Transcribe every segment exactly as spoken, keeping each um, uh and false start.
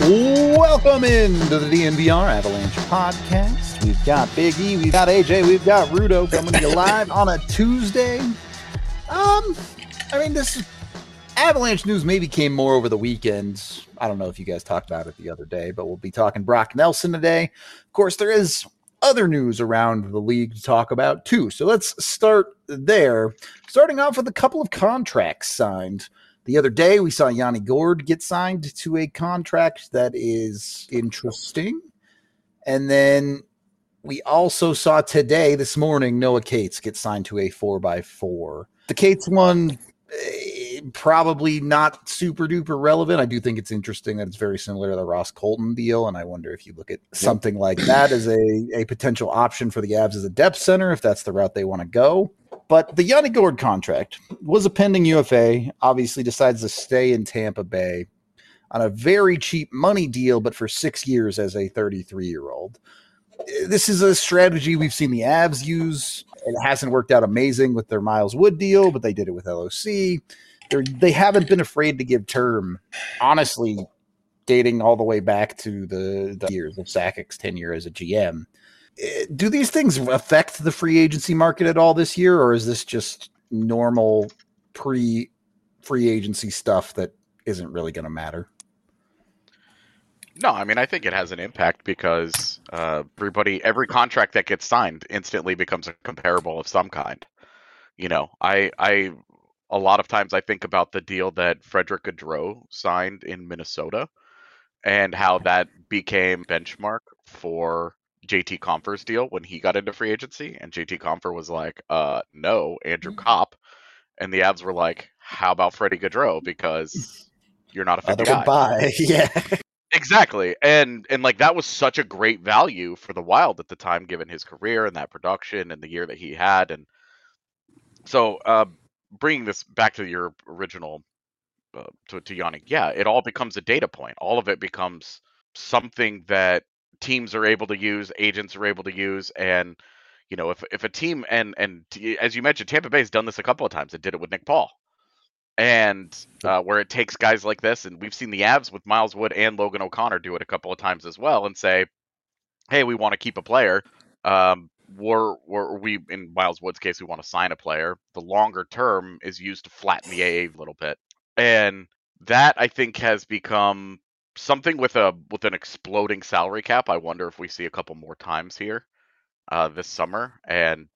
Welcome into the D N V R Avalanche podcast. We've got Big E, we've got A J, we've got Rudo coming to you live on a Tuesday. Um, I mean, this Avalanche news maybe came more over the weekend. I don't know if you guys talked about it the other day, but we'll be talking Brock Nelson today. Of course, there is other news around the league to talk about too. So let's start there. Starting off with a couple of contracts signed. The other day, we saw Yanni Gourde get signed to a contract that is interesting. And then we also saw today, this morning, Noah Cates get signed to a four by four. The Cates one, eh, probably not super duper relevant. I do think it's interesting that it's very similar to the Ross Colton deal. And I wonder if you look at something like that as a, a potential option for the Avs as a depth center, if that's the route they want to go. But the Yanni Gourde contract was a pending U F A, obviously decides to stay in Tampa Bay on a very cheap money deal, but for six years as a thirty-three-year-old. This is a strategy we've seen the Avs use. It hasn't worked out amazing with their Miles Wood deal, but they did it with L O C. They're, they haven't been afraid to give term, honestly, dating all the way back to the, the years of Sakic's tenure as a G M. Do these things affect the free agency market at all this year, or is this just normal pre-free agency stuff that isn't really going to matter? No, I mean, I think it has an impact because uh, everybody, every contract that gets signed instantly becomes a comparable of some kind. You know, I, I, a lot of times I think about the deal that Frederick Gaudreau signed in Minnesota and how that became benchmark for J T Compher's deal when he got into free agency, and J T Compher was like, uh, no, Andrew Kopp. And the Avs were like, how about Freddie Gaudreau? Because you're not a fifty guy. Buy. Yeah. Exactly. And, and like, that was such a great value for the Wild at the time, given his career and that production and the year that he had. And so, uh, bringing this back to your original, uh, to, to Yanni, yeah, it all becomes a data point. All of it becomes something that teams are able to use, agents are able to use, and you know, if if a team and and as you mentioned, Tampa Bay's done this a couple of times. It did it with Nick Paul, and uh, where it takes guys like this, and we've seen the Avs with Miles Wood and Logan O'Connor do it a couple of times as well, and say, hey, we want to keep a player. Um, we're, we're we in Miles Wood's case, we want to sign a player. The longer term is used to flatten the A A a little bit, and that I think has become something with a with an exploding salary cap. I wonder if we see a couple more times here uh, this summer, and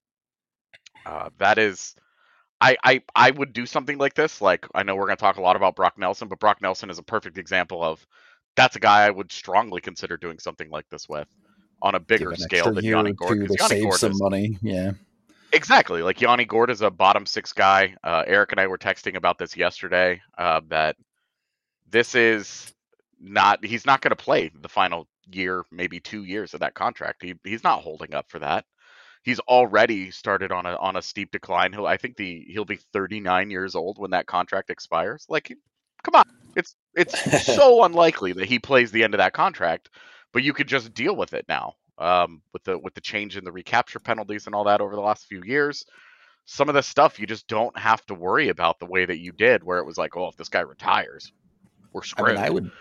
uh, that is, I, I I would do something like this. Like, I know we're going to talk a lot about Brock Nelson, but Brock Nelson is a perfect example of that's a guy I would strongly consider doing something like this with on a bigger scale than Yanni Gourde. To save Gourde some is, money, yeah. Exactly. Like, Yanni Gourde is a bottom six guy. Uh, Eric and I were texting about this yesterday. Uh, that this is. Not he's not going to play the final year, maybe two years of that contract. He he's not holding up for that. He's already started on a on a steep decline. He'll I think the he'll be thirty-nine years old when that contract expires. Like, come on, it's it's so unlikely that he plays the end of that contract. But you could just deal with it now, um, with the with the change in the recapture penalties and all that over the last few years. Some of the stuff you just don't have to worry about the way that you did, where it was like, oh, if this guy retires, we're screwed. I mean, I would.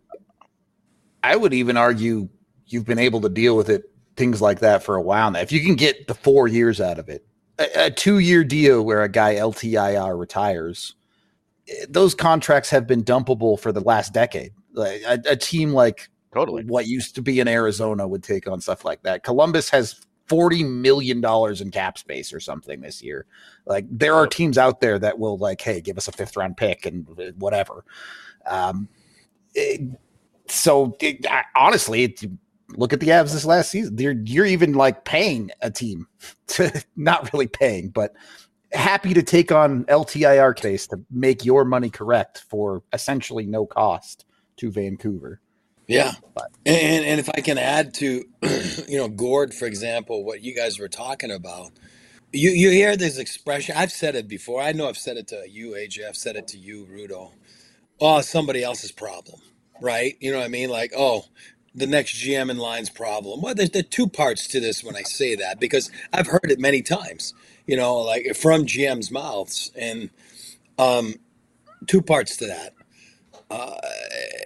I would even argue you've been able to deal with it, things like that, for a while now. If you can get the four years out of it, a, a two-year deal where a guy L T I R retires, those contracts have been dumpable for the last decade. Like a, a team like totally what used to be in Arizona would take on stuff like that. Columbus has forty million dollars in cap space or something this year. Like, there are teams out there that will, like, hey, give us a fifth-round pick and whatever. Um, it, So it, I, honestly, it, look at the Avs this last season. You're, you're even like paying a team to not really paying, but happy to take on L T I R case to make your money correct for essentially no cost to Vancouver. Yeah. But, and, and if I can add to, you know, Gourde, for example, what you guys were talking about, you, you hear this expression. I've said it before. I know I've said it to you, A J. I've said it to you, Rudo. Oh, somebody else's problem. Right? You know what I mean? Like, oh, the next G M in line's problem. Well, there's, there are two parts to this when I say that, because I've heard it many times, you know, like from G M's mouths. And um, two parts to that. Uh,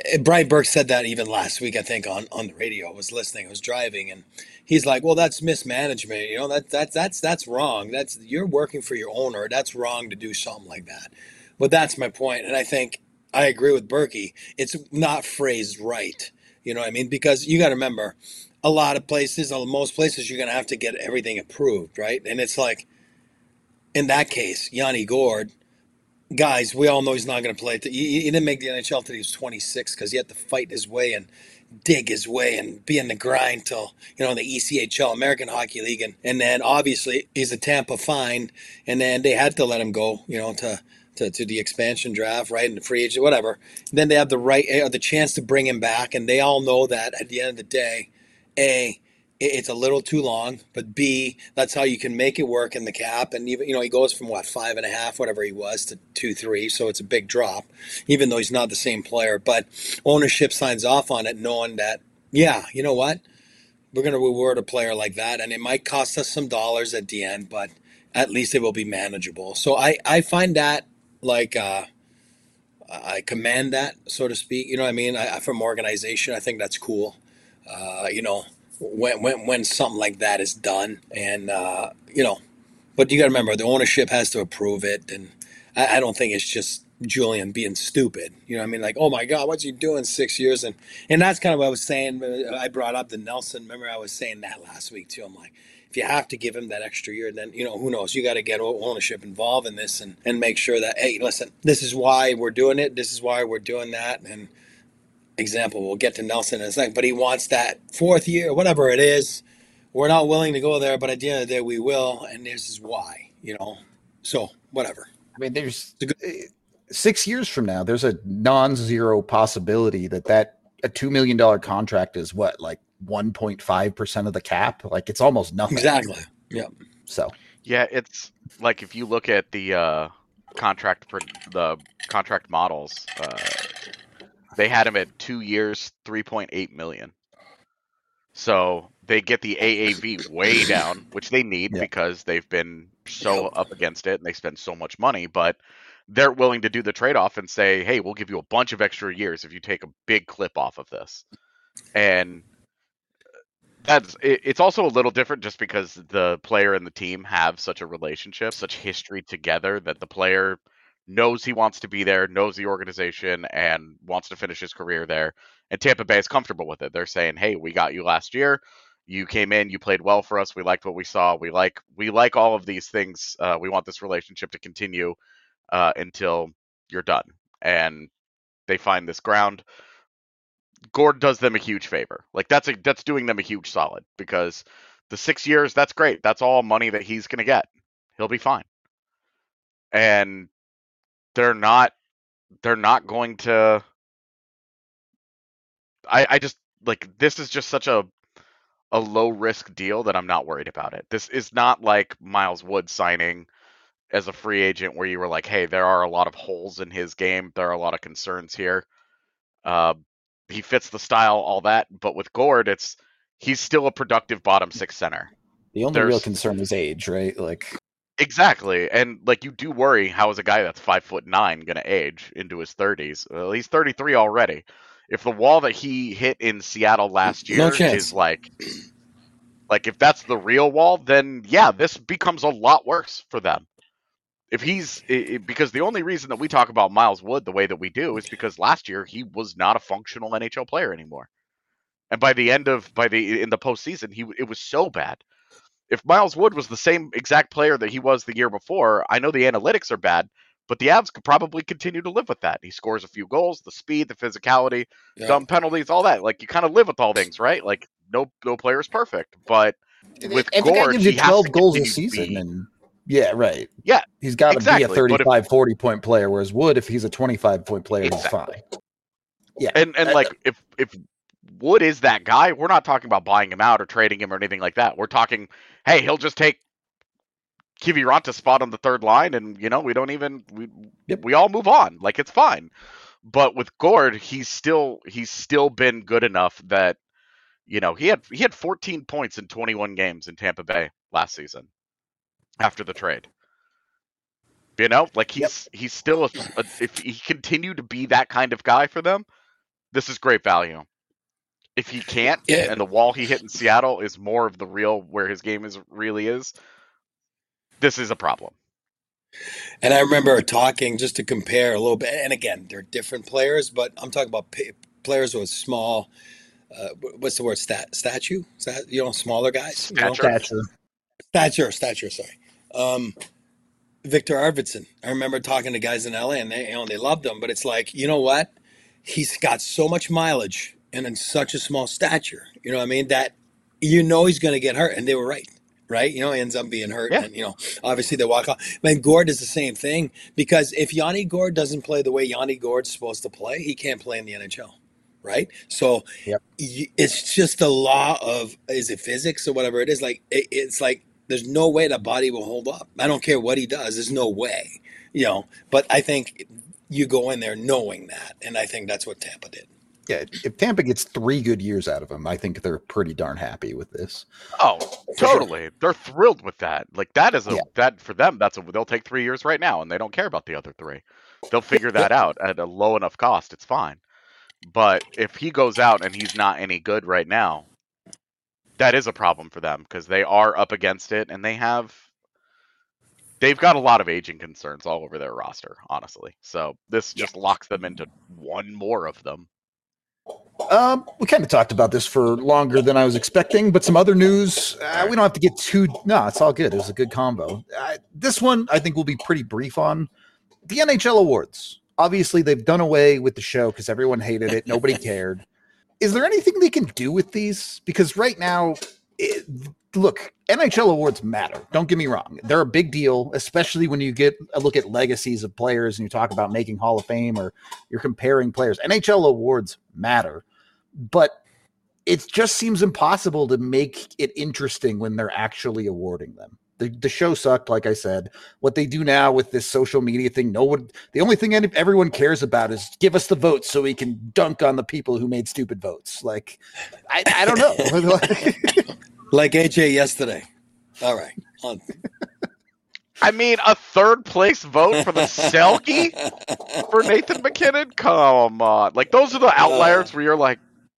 Brian Burke said that even last week, I think, on, on the radio. I was listening, I was driving, and he's like, well, that's mismanagement. You know, that, that, that's, that's wrong. That's, you're working for your owner. That's wrong to do something like that. But that's my point. And I think I agree with Berkey. It's not phrased right. You know what I mean? Because you got to remember, a lot of places, most places, you're going to have to get everything approved, right? And it's like, in that case, Yanni Gourde, guys, we all know he's not going to play. He, he didn't make the N H L until he was twenty-six because he had to fight his way and dig his way and be in the grind till, you know, the E C H L, American Hockey League. And, and then obviously he's a Tampa find, and then they had to let him go, you know, to to, to the expansion draft, right, and the free agent, whatever. And then they have the right, uh, the chance to bring him back, and they all know that at the end of the day, A, it's a little too long, but B, that's how you can make it work in the cap. And even, you know, he goes from what, five and a half, whatever he was, to two, three. So it's a big drop, even though he's not the same player. But ownership signs off on it, knowing that, yeah, you know what, we're going to reward a player like that, and it might cost us some dollars at the end, but at least it will be manageable. So I, I find that like uh, I command that, so to speak. You know what I mean? I, from organization, I think that's cool. Uh, you know. When, when when something like that is done, and uh, you know, but you got to remember the ownership has to approve it, and I, I don't think it's just Julian being stupid. You know what I mean? Like, oh my God, what's he doing six years? And and that's kind of what I was saying. I brought up the Nelson. Remember, I was saying that last week too. I'm like, if you have to give him that extra year, then, you know, who knows? You got to get ownership involved in this and and make sure that, hey, listen, this is why we're doing it. This is why we're doing that. And example, we'll get to Nelson in a second, but he wants that fourth year, whatever it is. We're not willing to go there, but at the end of the day, we will, and this is why, you know. So, whatever. I mean, there's good, six years from now, there's a non-zero possibility that that a two million dollars contract is what, like one point five percent of the cap? Like, it's almost nothing. Exactly. Yeah. So. Yeah, it's like if you look at the uh, contract for the contract models. Uh, They had him at two years, three point eight million. So they get the A A V way down, which they need yep. because they've been so yep. up against it and they spend so much money. But they're willing to do the trade-off and say, hey, we'll give you a bunch of extra years if you take a big clip off of this. And that's it, it's also a little different just because the player and the team have such a relationship, such history together, that the player knows he wants to be there, knows the organization, and wants to finish his career there. And Tampa Bay is comfortable with it. They're saying, hey, we got you last year. You came in, you played well for us. We liked what we saw. We like we like all of these things. Uh, we want this relationship to continue uh, until you're done. And they find this ground. Gourde does them a huge favor. Like that's a, that's doing them a huge solid, because the six years, that's great. That's all money that he's going to get. He'll be fine. And they're not they're not going to I, I just like this is just such a a low risk deal that I'm not worried about it. This is not like Miles Wood signing as a free agent where you were like, hey, there are a lot of holes in his game. There are a lot of concerns here. Uh, he fits the style, all that. But with Gourde, it's he's still a productive bottom six center. The only There's, real concern is age, right? Like exactly. And like you do worry, how is a guy that's five foot nine going to age into his thirties? Well, he's thirty-three already. If the wall that he hit in Seattle last year no is like, like if that's the real wall, then yeah, this becomes a lot worse for them. If he's it, because the only reason that we talk about Miles Wood the way that we do is because last year he was not a functional N H L player anymore, and by the end of by the in the postseason, he it was so bad. If Miles Wood was the same exact player that he was the year before, I know the analytics are bad, but the Avs could probably continue to live with that. He scores a few goals, the speed, the physicality, yeah. dumb penalties, all that. Like you kind of live with all things, right? Like no no player is perfect, but with and Gourde, gives you twelve goals a season, and yeah, right. Yeah, he's got to exactly. be a thirty-five, if, forty point player. Whereas Wood, if he's a twenty-five point player, exactly. he's fine. Yeah, and and uh, like if if Wood is that guy, we're not talking about buying him out or trading him or anything like that. We're talking, hey, he'll just take Kiviranta's spot on the third line, and you know we don't even we yep. we all move on, like it's fine. But with Gourde, he's still he's still been good enough that you know he had he had fourteen points in twenty-one games in Tampa Bay last season after the trade. You know, like he's yep. he's still a, a, if he continued to be that kind of guy for them, this is great value. If he can't, Yeah. and the wall he hit in Seattle is more of the real where his game is really is, this is a problem. And I remember talking just to compare a little bit. And again, they're different players, but I'm talking about p- players with small. Uh, what's the word? Stat statue? Is that, you know, smaller guys. You know? Stature. Stature. Stature. Stature. Sorry. Um, Victor Arvidsson. I remember talking to guys in L A, and they, you know, they loved him. But it's like, you know what? He's got so much mileage and in such a small stature. You know what I mean? That you know he's going to get hurt, and they were right. Right, you know, he ends up being hurt, Yeah. and you know, obviously they walk off. Man, Gord is the same thing, because if Yanni Gord doesn't play the way Yanni Gord's supposed to play, he can't play in the N H L, right? So Yep. y- it's just the law of, is it physics or whatever it is? Like it, it's like there's no way the body will hold up. I don't care what he does. There's no way, you know. But I think you go in there knowing that, and I think that's what Tampa did. Yeah, if Tampa gets three good years out of him, I think they're pretty darn happy with this. Oh, For totally. sure. They're thrilled with that. Like that is a Yeah. that for them. That's a they'll take three years right now, and they don't care about the other three. They'll figure that out at a low enough cost. It's fine. But if he goes out and he's not any good right now, that is a problem for them because they are up against it, and they have they've got a lot of aging concerns all over their roster. Honestly, so this just locks them into one more of them. Um, we kind of talked about this for longer than I was expecting, but some other news. Uh, we don't have to get too. No, it's all good. It was a good combo. Uh, this one I think will be pretty brief on the N H L awards. Obviously, they've done away with the show because everyone hated it. Nobody cared. Is there anything they can do with these? Because right now, it, look, N H L awards matter. Don't get me wrong. They're a big deal, especially when you get a look at legacies of players and you talk about making Hall of Fame or you're comparing players. N H L awards matter, but it just seems impossible to make it interesting when they're actually awarding them. The, the show sucked, like I said. What they do now with this social media thing, no one, the only thing any, everyone cares about is give us the votes so we can dunk on the people who made stupid votes. Like, I, I don't know. Like A J yesterday. All right. On. I mean, a third place vote for the Selke for Nathan MacKinnon? Come on. Like, those are the outliers where you're like,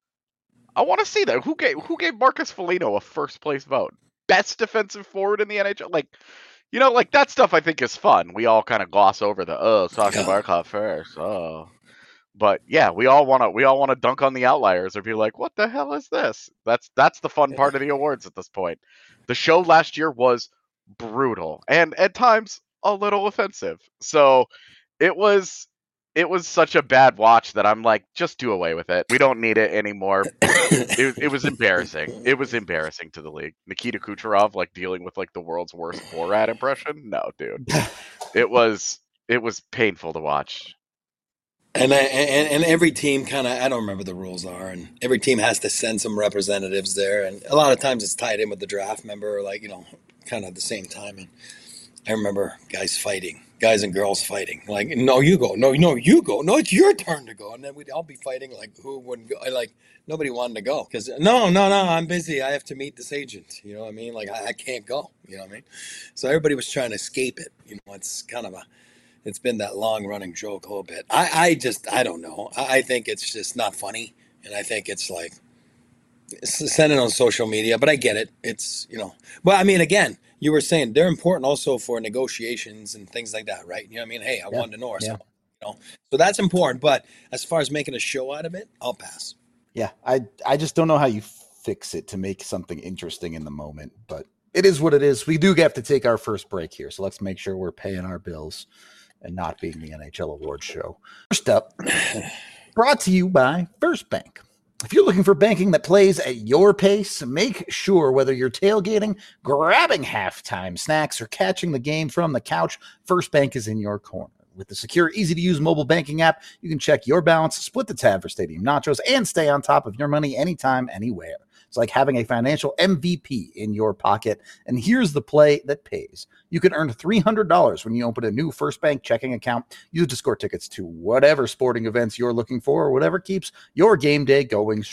I want to see that. Who gave who gave Marcus Foligno a first place vote? Best defensive forward in the N H L? Like, you know, like that stuff I think is fun. We all kind of gloss over the, oh, Sasha Yeah. Barkov first. Oh. But yeah, we all want to we all want to dunk on the outliers or be like, what the hell is this? That's that's the fun part of the awards at this point. The show last year was brutal and at times a little offensive. So it was it was such a bad watch that I'm like, just do away with it. We don't need it anymore. It, it was embarrassing. It was embarrassing to the league. Nikita Kucherov like dealing with like the world's worst Borat impression. No, dude. It was it was painful to watch. And, I, and and every team kind of, I don't remember the rules are, and every team has to send some representatives there, and a lot of times it's tied in with the draft member, or like, you know, kind of at the same time. And I remember guys fighting, guys and girls fighting, like, no, you go, no, no, you go, no, it's your turn to go, and then we'd all be fighting like who wouldn't go, like nobody wanted to go because no, no, no, I'm busy, I have to meet this agent, you know what I mean? Like I, I can't go, you know what I mean? So everybody was trying to escape it, you know. It's kind of a It's been that long running joke a little bit. I, I just, I don't know. I, I think it's just not funny. And I think it's like, send it on social media, but I get it. It's, you know, well, I mean, again, you were saying they're important also for negotiations and things like that, right? You know what I mean? Hey, I Yeah. wanted to know or Yeah. something, you know? So that's important. But as far as making a show out of it, I'll pass. Yeah, I I just don't know how you fix it to make something interesting in the moment, but it is what it is. We do have to take our first break here, so let's make sure we're paying our bills and not being the N H L Awards show. First up, brought to you by First Bank. If you're looking for banking that plays at your pace, make sure whether you're tailgating, grabbing halftime snacks, or catching the game from the couch, First Bank is in your corner. With the secure, easy-to-use mobile banking app, you can check your balance, split the tab for stadium nachos, and stay on top of your money anytime, anywhere. It's like having a financial M V P in your pocket. And here's the play that pays. You can earn three hundred dollars when you open a new First Bank checking account. Use to score tickets to whatever sporting events you're looking for or whatever keeps your game day going strong.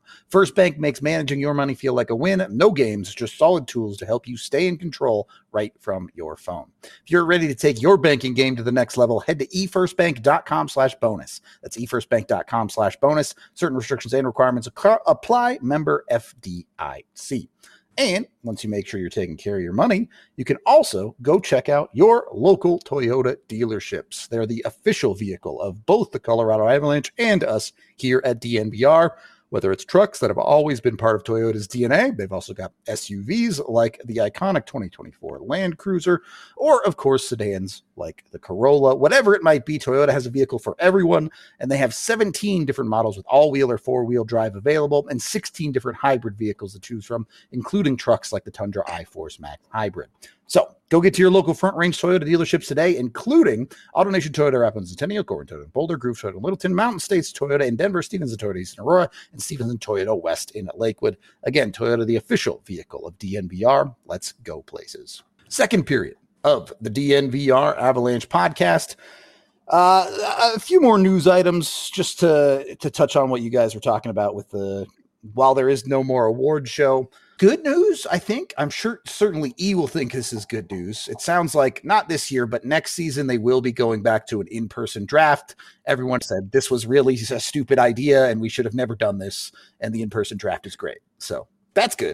First Bank makes managing your money feel like a win. No games, just solid tools to help you stay in control right from your phone. If you're ready to take your banking game to the next level, head to efirstbank.com slash bonus. That's efirstbank.com slash bonus. Certain restrictions and requirements apply. Member F D I C. And once you make sure you're taking care of your money, you can also go check out your local Toyota dealerships. They're the official vehicle of both the Colorado Avalanche and us here at D N V R. Whether it's trucks that have always been part of Toyota's D N A, they've also got S U Vs like the iconic twenty twenty-four Land Cruiser, or of course sedans like the Corolla. Whatever it might be, Toyota has a vehicle for everyone, and they have seventeen different models with all-wheel or four-wheel drive available, and sixteen different hybrid vehicles to choose from, including trucks like the Tundra iForce Max Hybrid. So go get to your local Front Range Toyota dealerships today, including AutoNation Toyota Rapids, Centennial, Corbin Toyota, Boulder, Groove Toyota, Littleton, Mountain States Toyota in Denver, Stevenson Toyota East in Aurora, and Stevenson Toyota West in Lakewood. Again, Toyota, the official vehicle of D N V R. Let's go places. Second period of the D N V R Avalanche podcast. Uh, a few more news items just to, to touch on what you guys were talking about with the, while there is no more award show. Good news, I think. I'm sure certainly E will think this is good news. It sounds like not this year, but next season they will be going back to an in-person draft. Everyone said this was really a stupid idea and we should have never done this. And the in-person draft is great. So that's good.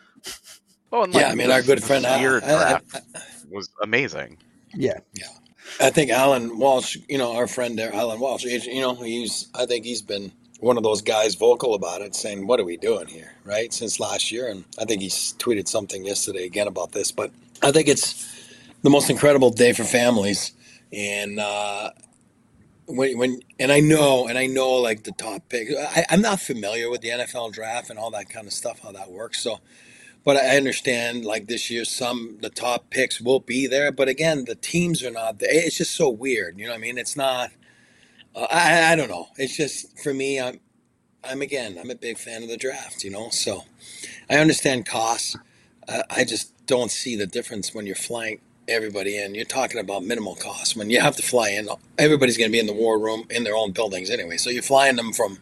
Oh, and Yeah, like, I mean, this- our good this friend, Al- year I- I- draft was amazing. Yeah. Yeah. I think Alan Walsh, you know, our friend there, Alan Walsh, you know, he's, I think he's been one of those guys vocal about it, saying, what are we doing here, right, since last year? And I think he's tweeted something yesterday again about this. But I think it's the most incredible day for families. And uh, when, when and I know, and I know, like, the top pick. I, I'm not familiar with the N F L draft and all that kind of stuff, how that works. So, but I understand, like, this year, some the top picks will be there. But again, the teams are not there. It's just so weird. You know what I mean? It's not. Uh, I, I don't know. It's just, for me, I'm, I'm again, I'm a big fan of the draft, you know, so I understand costs. Uh, I just don't see the difference when you're flying everybody in. You're talking about minimal costs. When you have to fly in, everybody's going to be in the war room in their own buildings anyway. So you're flying them from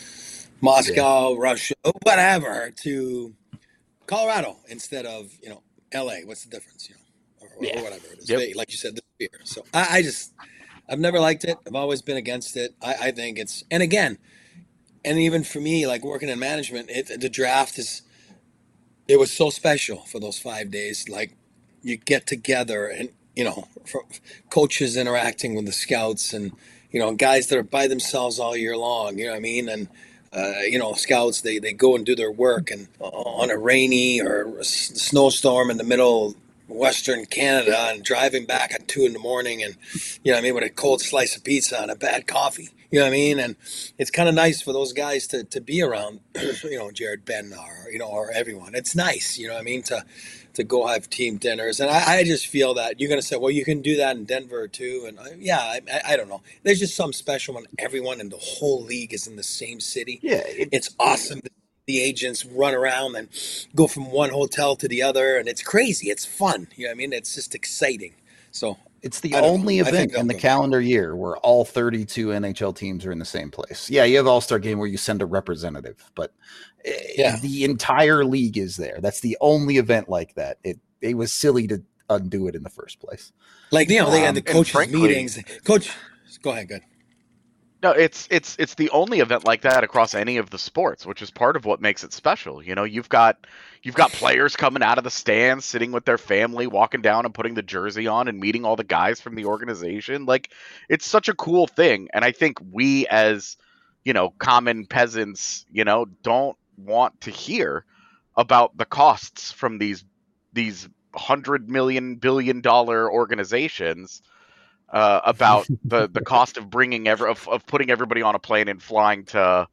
Moscow, yeah. Russia, whatever, to Colorado instead of, you know, L A. What's the difference, you know, or, yeah. or whatever it is. Yep. Like you said, this year. So I, I just... I've never liked it. I've always been against it. I, I think it's, and again, and even for me, like working in management, it, the draft is, it was so special for those five days. Like you get together and, you know, for coaches interacting with the scouts and, you know, guys that are by themselves all year long, you know what I mean? And, uh, you know, scouts, they, they go and do their work and on a rainy or a snowstorm in the middle of Western Canada and driving back at two in the morning and, you know what I mean, with a cold slice of pizza and a bad coffee, you know what I mean? And it's kind of nice for those guys to, to be around, you know, Jared Bednar, you know, or everyone. It's nice, you know what I mean, to, to go have team dinners. And I, I just feel that you're going to say, well, you can do that in Denver too. And I, yeah, I, I don't know. There's just some special when everyone in the whole league is in the same city. Yeah. It, it's awesome. The agents run around and go from one hotel to the other, and it's crazy. It's fun. You know what I mean? It's just exciting. So it's the only know. event in the calendar year where all thirty-two N H L teams are in the same place. Yeah, you have All-Star Game where you send a representative, but yeah. the entire league is there. That's the only event like that. It it was silly to undo it in the first place. Like, you know, they um, had the coaches' frankly, meetings. Coach, go ahead, good. No, it's it's it's the only event like that across any of the sports, which is part of what makes it special. You know, you've got you've got players coming out of the stands, sitting with their family, walking down and putting the jersey on and meeting all the guys from the organization. Like, it's such a cool thing. And I think we as, you know, common peasants, you know, don't want to hear about the costs from these these hundred million billion dollar organizations. Uh, about the, the cost of bringing ever of, of putting everybody on a plane and flying to,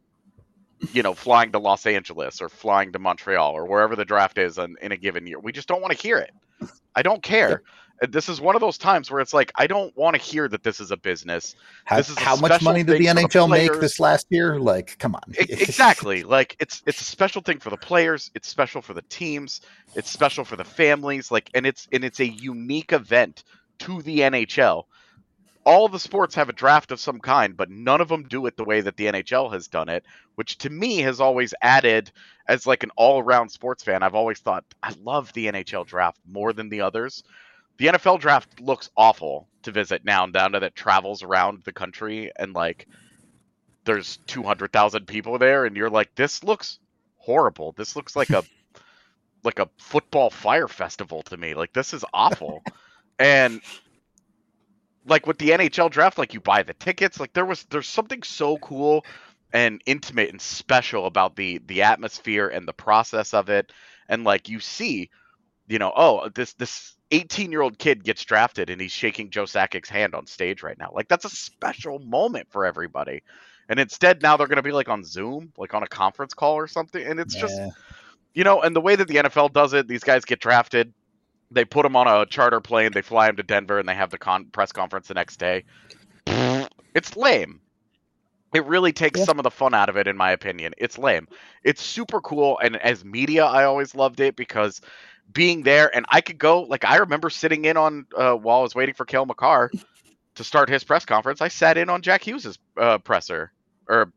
you know, flying to Los Angeles or flying to Montreal or wherever the draft is in, in a given year. We just don't want to hear it. I don't care. This is one of those times where it's like, I don't want to hear that this is a business. How, this is a how much money did the N H L the make this last year? Like, come on. Exactly. Like, it's it's a special thing for the players. It's special for the teams. It's special for the families. Like, and it's and it's a unique event to the N H L. all the sports have a draft of some kind, but none of them do it the way that the N H L has done it, which to me has always added, as like an all-around sports fan, I've always thought I love the N H L draft more than the others. The N F L draft looks awful to visit now, down to that travels around the country and like there's two hundred thousand people there, and you're like, this looks horrible. This looks like a like a football fire festival to me. Like, this is awful. And like with the N H L draft, like you buy the tickets, like there was there's something so cool and intimate and special about the the atmosphere and the process of it. And like you see, you know, oh, this this eighteen year old kid gets drafted and he's shaking Joe Sakic's hand on stage right now. Like, that's a special moment for everybody. And instead now they're going to be like on Zoom, like on a conference call or something. And it's yeah. just, you know, and the way that the N F L does it, these guys get drafted, they put them on a charter plane, they fly them to Denver, and they have the con- press conference the next day. It's lame. It really takes yeah. some of the fun out of it, in my opinion. It's lame. It's super cool, and as media, I always loved it because being there, and I could go, like, I remember sitting in on, uh, while I was waiting for Cale Makar to start his press conference, I sat in on Jack Hughes' uh, presser, or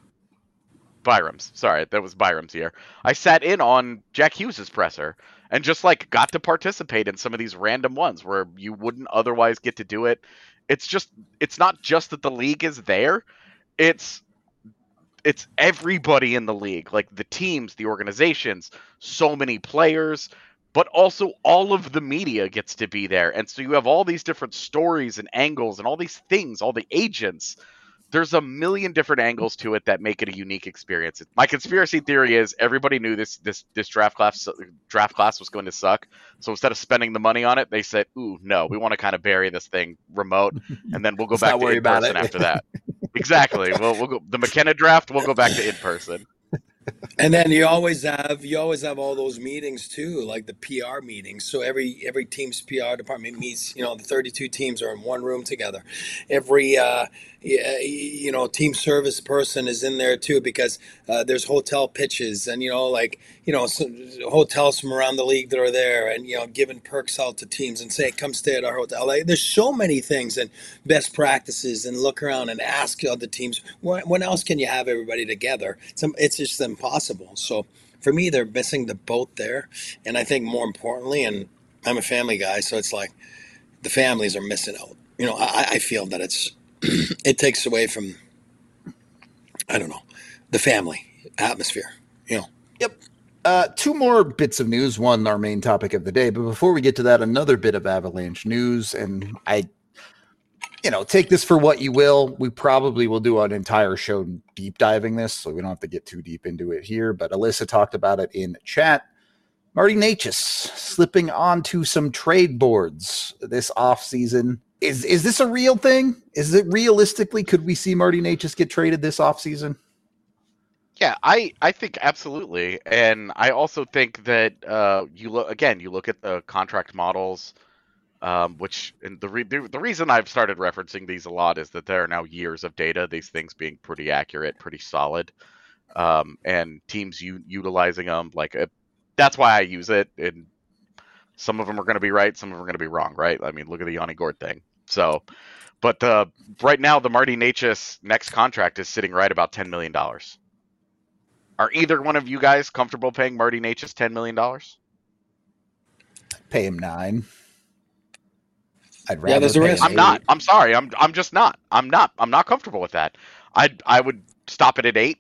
Byram's, sorry, that was Byram's year. I sat in on Jack Hughes' presser, and just, like, got to participate in some of these random ones where you wouldn't otherwise get to do it. It's just, it's not just that the league is there, it's it's everybody in the league, like the teams, the organizations, so many players, but also all of the media gets to be there. And so you have all these different stories and angles and all these things, all the agents. There's a million different angles to it that make it a unique experience. My conspiracy theory is everybody knew this this this draft class draft class was going to suck. So instead of spending the money on it, they said, "Ooh, no, we want to kind of bury this thing remote, and then we'll go back to in person after that." Exactly. Well, we'll go the McKenna draft. We'll go back to in person. And then you always have you always have all those meetings too, like the P R meetings. So every every team's P R department meets. You know, the thirty-two teams are in one room together. Every uh, you know team service person is in there too, because uh, there's hotel pitches and you know like you know some hotels from around the league that are there, and you know giving perks out to teams and say, come stay at our hotel. Like, there's so many things and best practices, and look around and ask other teams, when, when else can you have everybody together? It's, it's just impossible. So for me, they're missing the boat there. And I think more importantly, and I'm a family guy, so it's like the families are missing out. You know, I, I feel that it's it takes away from, I don't know, the family atmosphere, you know. Yep. Uh, two more bits of news. One, our main topic of the day. But before we get to that, another bit of Avalanche news. And I, you know, take this for what you will. We probably will do an entire show deep diving this, so we don't have to get too deep into it here. But Alyssa talked about it in chat. Marty Necas slipping onto some trade boards this offseason. Is is this a real thing? Is it realistically, could we see Marty Necas get traded this offseason? Yeah, I, I think absolutely. And I also think that uh, you look again, you look at the contract models, um, which and the, re- the the reason I've started referencing these a lot is that there are now years of data, these things being pretty accurate, pretty solid, um, and teams u- utilizing them. Like uh, that's why I use it. And some of them are going to be right, some of them are going to be wrong, right? I mean, look at the Yanni Gourde thing. So, but uh, right now, the Marty Necas next contract is sitting right about ten million dollars. Are either one of you guys comfortable paying Marty Necas ten million dollars? Pay him nine. I'd rather yeah, there's a risk. I'm not. I'm sorry. I'm. I'm just not. I'm not. I'm not comfortable with that. I. I would stop it at eight.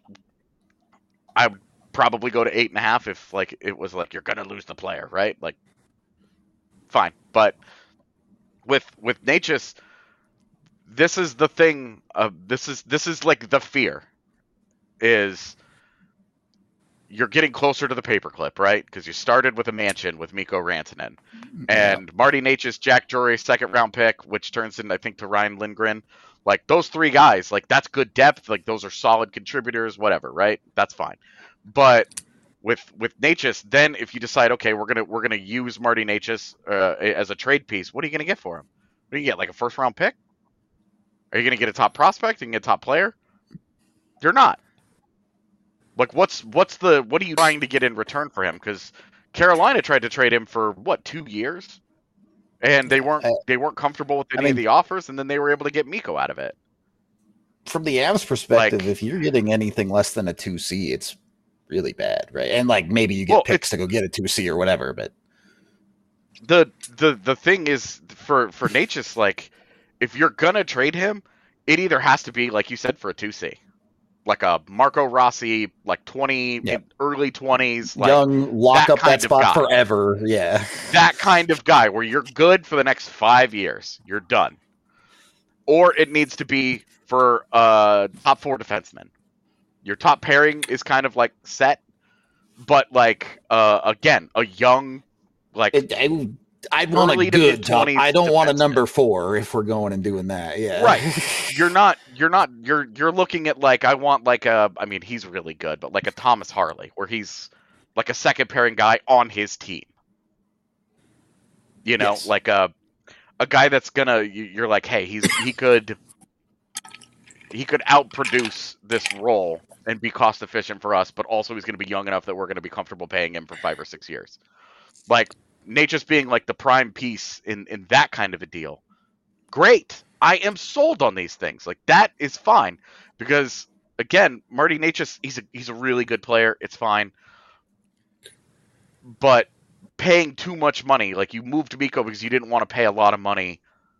I would probably go to eight and a half if like it was like you're gonna lose the player, right? Like, fine. But with with Necas, this is the thing. Uh, this is this is like the fear. Is you're getting closer to the paperclip, right? Because you started with a mansion with Mikko Rantanen. And yeah. Marty Necas, Jack Drury, second round pick, which turns in, I think, to Ryan Lindgren. Like, those three guys, like, that's good depth. Like, those are solid contributors, whatever, right? That's fine. But with with Necas, then if you decide, okay, we're gonna we're gonna use Marty Necas uh, as a trade piece, what are you gonna get for him? What do you get? Like a first round pick? Are you gonna get a top prospect? You can get a top player? You're not. Like, what's what's the what are you trying to get in return for him? Because Carolina tried to trade him for what, two years, and they Yeah, weren't I, they weren't comfortable with I any of mean, the offers, and then they were able to get Mikko out of it. from the Avs perspective, Like, if you're getting anything less than a two C, it's really bad, right? And like maybe you get well, picks it's to go get a two C or whatever, but the the the thing is for for Natchez, like, if you're gonna trade him, it either has to be, like you said, for a two C, like a Marco Rossi, like twenty yeah, early twenties, like young, lock that up that kind of spot guy. forever. Yeah, That kind of guy where you're good for the next five years, you're done. Or it needs to be for uh top four defenseman. Your top pairing is kind of like set, but like uh again, a young, like it, I, I'd want a early to good mid top. twenties I don't want a defenseman. number four if we're going and doing that. Yeah, Right. You're not you're not you're you're looking at, like, I want like a I mean he's really good, but like a Thomas Harley, where he's like a second pairing guy on his team. You know, Yes. like a a guy that's gonna you- you're like, hey, he's he could he could outproduce this role and be cost efficient for us, but also he's gonna be young enough that we're gonna be comfortable paying him for five or six years. Like, Natchez being like the prime piece in in that kind of a deal. Great. I am sold on these things. Like, that is fine, because again, Marty Natchez, he's a he's a really good player. It's fine. But paying too much money, like, you moved Mikko because you didn't want to pay a lot of money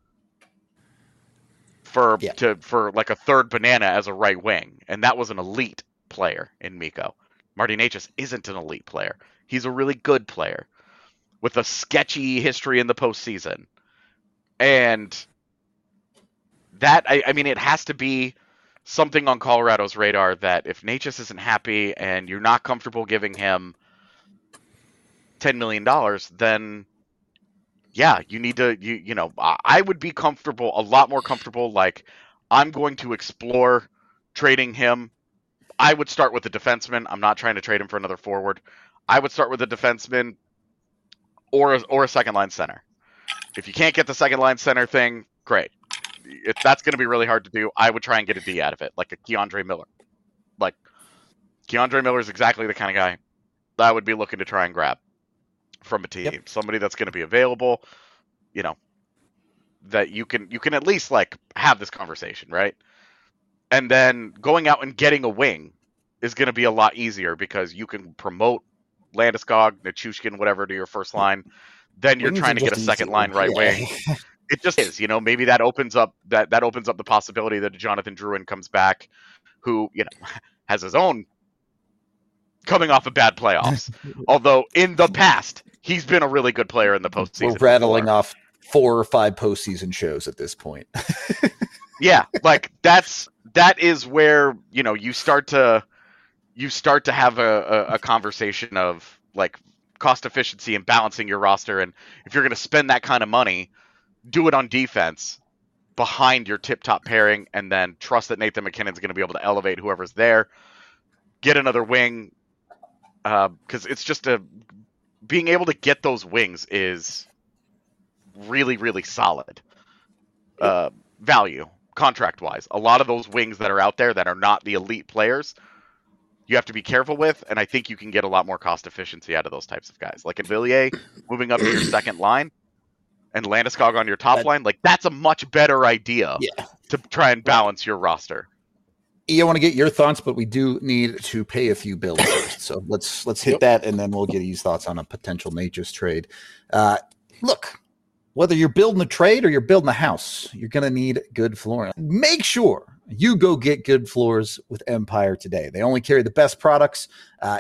for Yeah. to for like a third banana as a right wing, and that was an elite player in Mikko. Marty Natchez isn't an elite player. He's a really good player with a sketchy history in the postseason. And that, I, I mean, it has to be something on Colorado's radar that if Natchez isn't happy and you're not comfortable giving him ten million dollars, then yeah, you need to, you you know, I I would be comfortable, a lot more comfortable, like, I'm going to explore trading him. I would start with a defenseman. I'm not trying to trade him for another forward. I would start with a defenseman or a, or a second line center. If you can't get the second line center thing, great. If that's going to be really hard to do, I would try and get a D out of it, like a Keandre Miller. Like, Keandre Miller is exactly the kind of guy that I would be looking to try and grab from a team. Yep. Somebody that's going to be available, you know, that you can you can at least, like, have this conversation, right? And then going out and getting a wing is going to be a lot easier because you can promote Landeskog, Nichushkin, whatever, to your first line. Then you're Wings trying are to get a just second easier. line right Yeah. wing. It just is, you know, maybe that opens up that that opens up the possibility that Jonathan Drouin comes back, who, you know, has his own coming off of bad playoffs. Although in the past, he's been a really good player in the postseason. We're rattling before. off four or five postseason shows at this point. Yeah, like, that's that is where, you know, you start to you start to have a, a, a conversation of, like, cost efficiency and balancing your roster. And if you're going to spend that kind of money, do it on defense behind your tip-top pairing, and then trust that Nathan McKinnon's going to be able to elevate whoever's there. Get another wing, because uh, it's just a being able to get those wings is really, really solid uh, value contract-wise. A lot of those wings that are out there that are not the elite players, you have to be careful with, and I think you can get a lot more cost efficiency out of those types of guys. Like, in Villiers, moving up to your second line, and Landeskog on your top That- line, like, that's a much better idea Yeah. to try and balance your roster. I want to get your thoughts, but we do need to pay a few bills first. So let's let's hit Yep. that, and then we'll get his thoughts on a potential Natchez trade. Uh, look, whether you're building a trade or you're building a house, you're going to need good flooring. Make sure you go get good floors with Empire today. They only carry the best products, uh,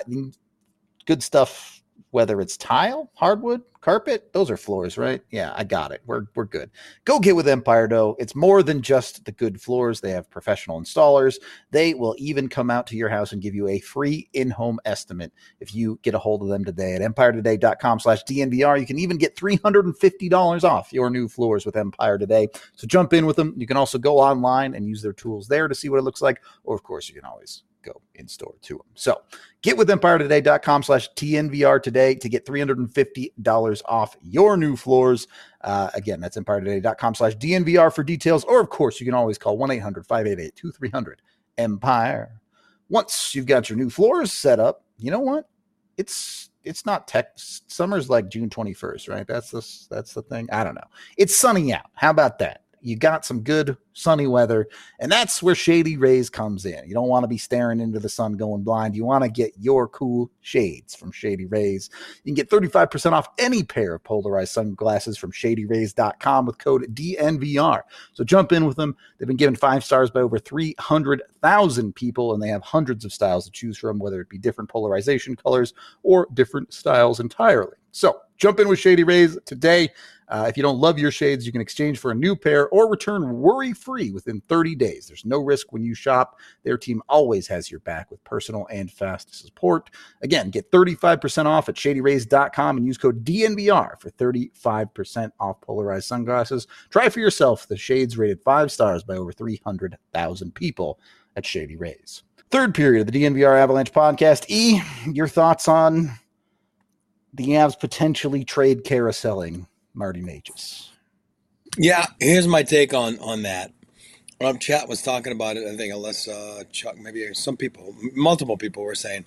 good stuff. Whether it's tile, hardwood, carpet, those are floors, right? Yeah, I got it. We're we're good. Go get with Empire Dough. It's more than just the good floors. They have professional installers. They will even come out to your house and give you a free in-home estimate if you get a hold of them today at empire today dot com slash D N V R. You can even get three hundred fifty dollars off your new floors with Empire Today. So jump in with them. You can also go online and use their tools there to see what it looks like. Or, of course, you can always go in store to them. So get with empire today dot com slash T N V R today to get three hundred fifty dollars off your new floors. Uh, again, that's empire today dot com slash D N V R for details. Or, of course, you can always call one eight hundred five eight eight two three zero zero Empire. Once you've got your new floors set up, you know what? It's it's not tech. Summer's like June twenty-first, right? That's the that's the thing. I don't know. It's sunny out. How about that? You got some good sunny weather, and that's where Shady Rays comes in. You don't want to be staring into the sun going blind. You want to get your cool shades from Shady Rays. You can get thirty-five percent off any pair of polarized sunglasses from shady rays dot com with code D N V R. So jump in with them. They've been given five stars by over three hundred thousand people, and they have hundreds of styles to choose from, whether it be different polarization colors or different styles entirely. So jump in with Shady Rays today. Uh, if you don't love your shades, you can exchange for a new pair or return worry-free within thirty days. There's no risk when you shop. Their team always has your back with personal and fast support. Again, get thirty-five percent off at shady rays dot com and use code D N V R for thirty-five percent off polarized sunglasses. Try for yourself the shades rated five stars by over three hundred thousand people at Shady Rays. Third period of the D N V R Avalanche podcast. E, your thoughts on the Avs potentially trade carouseling Marty Necas? Yeah, here's my take on on that. Um, chat was talking about it. I think unless uh, Chuck, maybe some people, multiple people were saying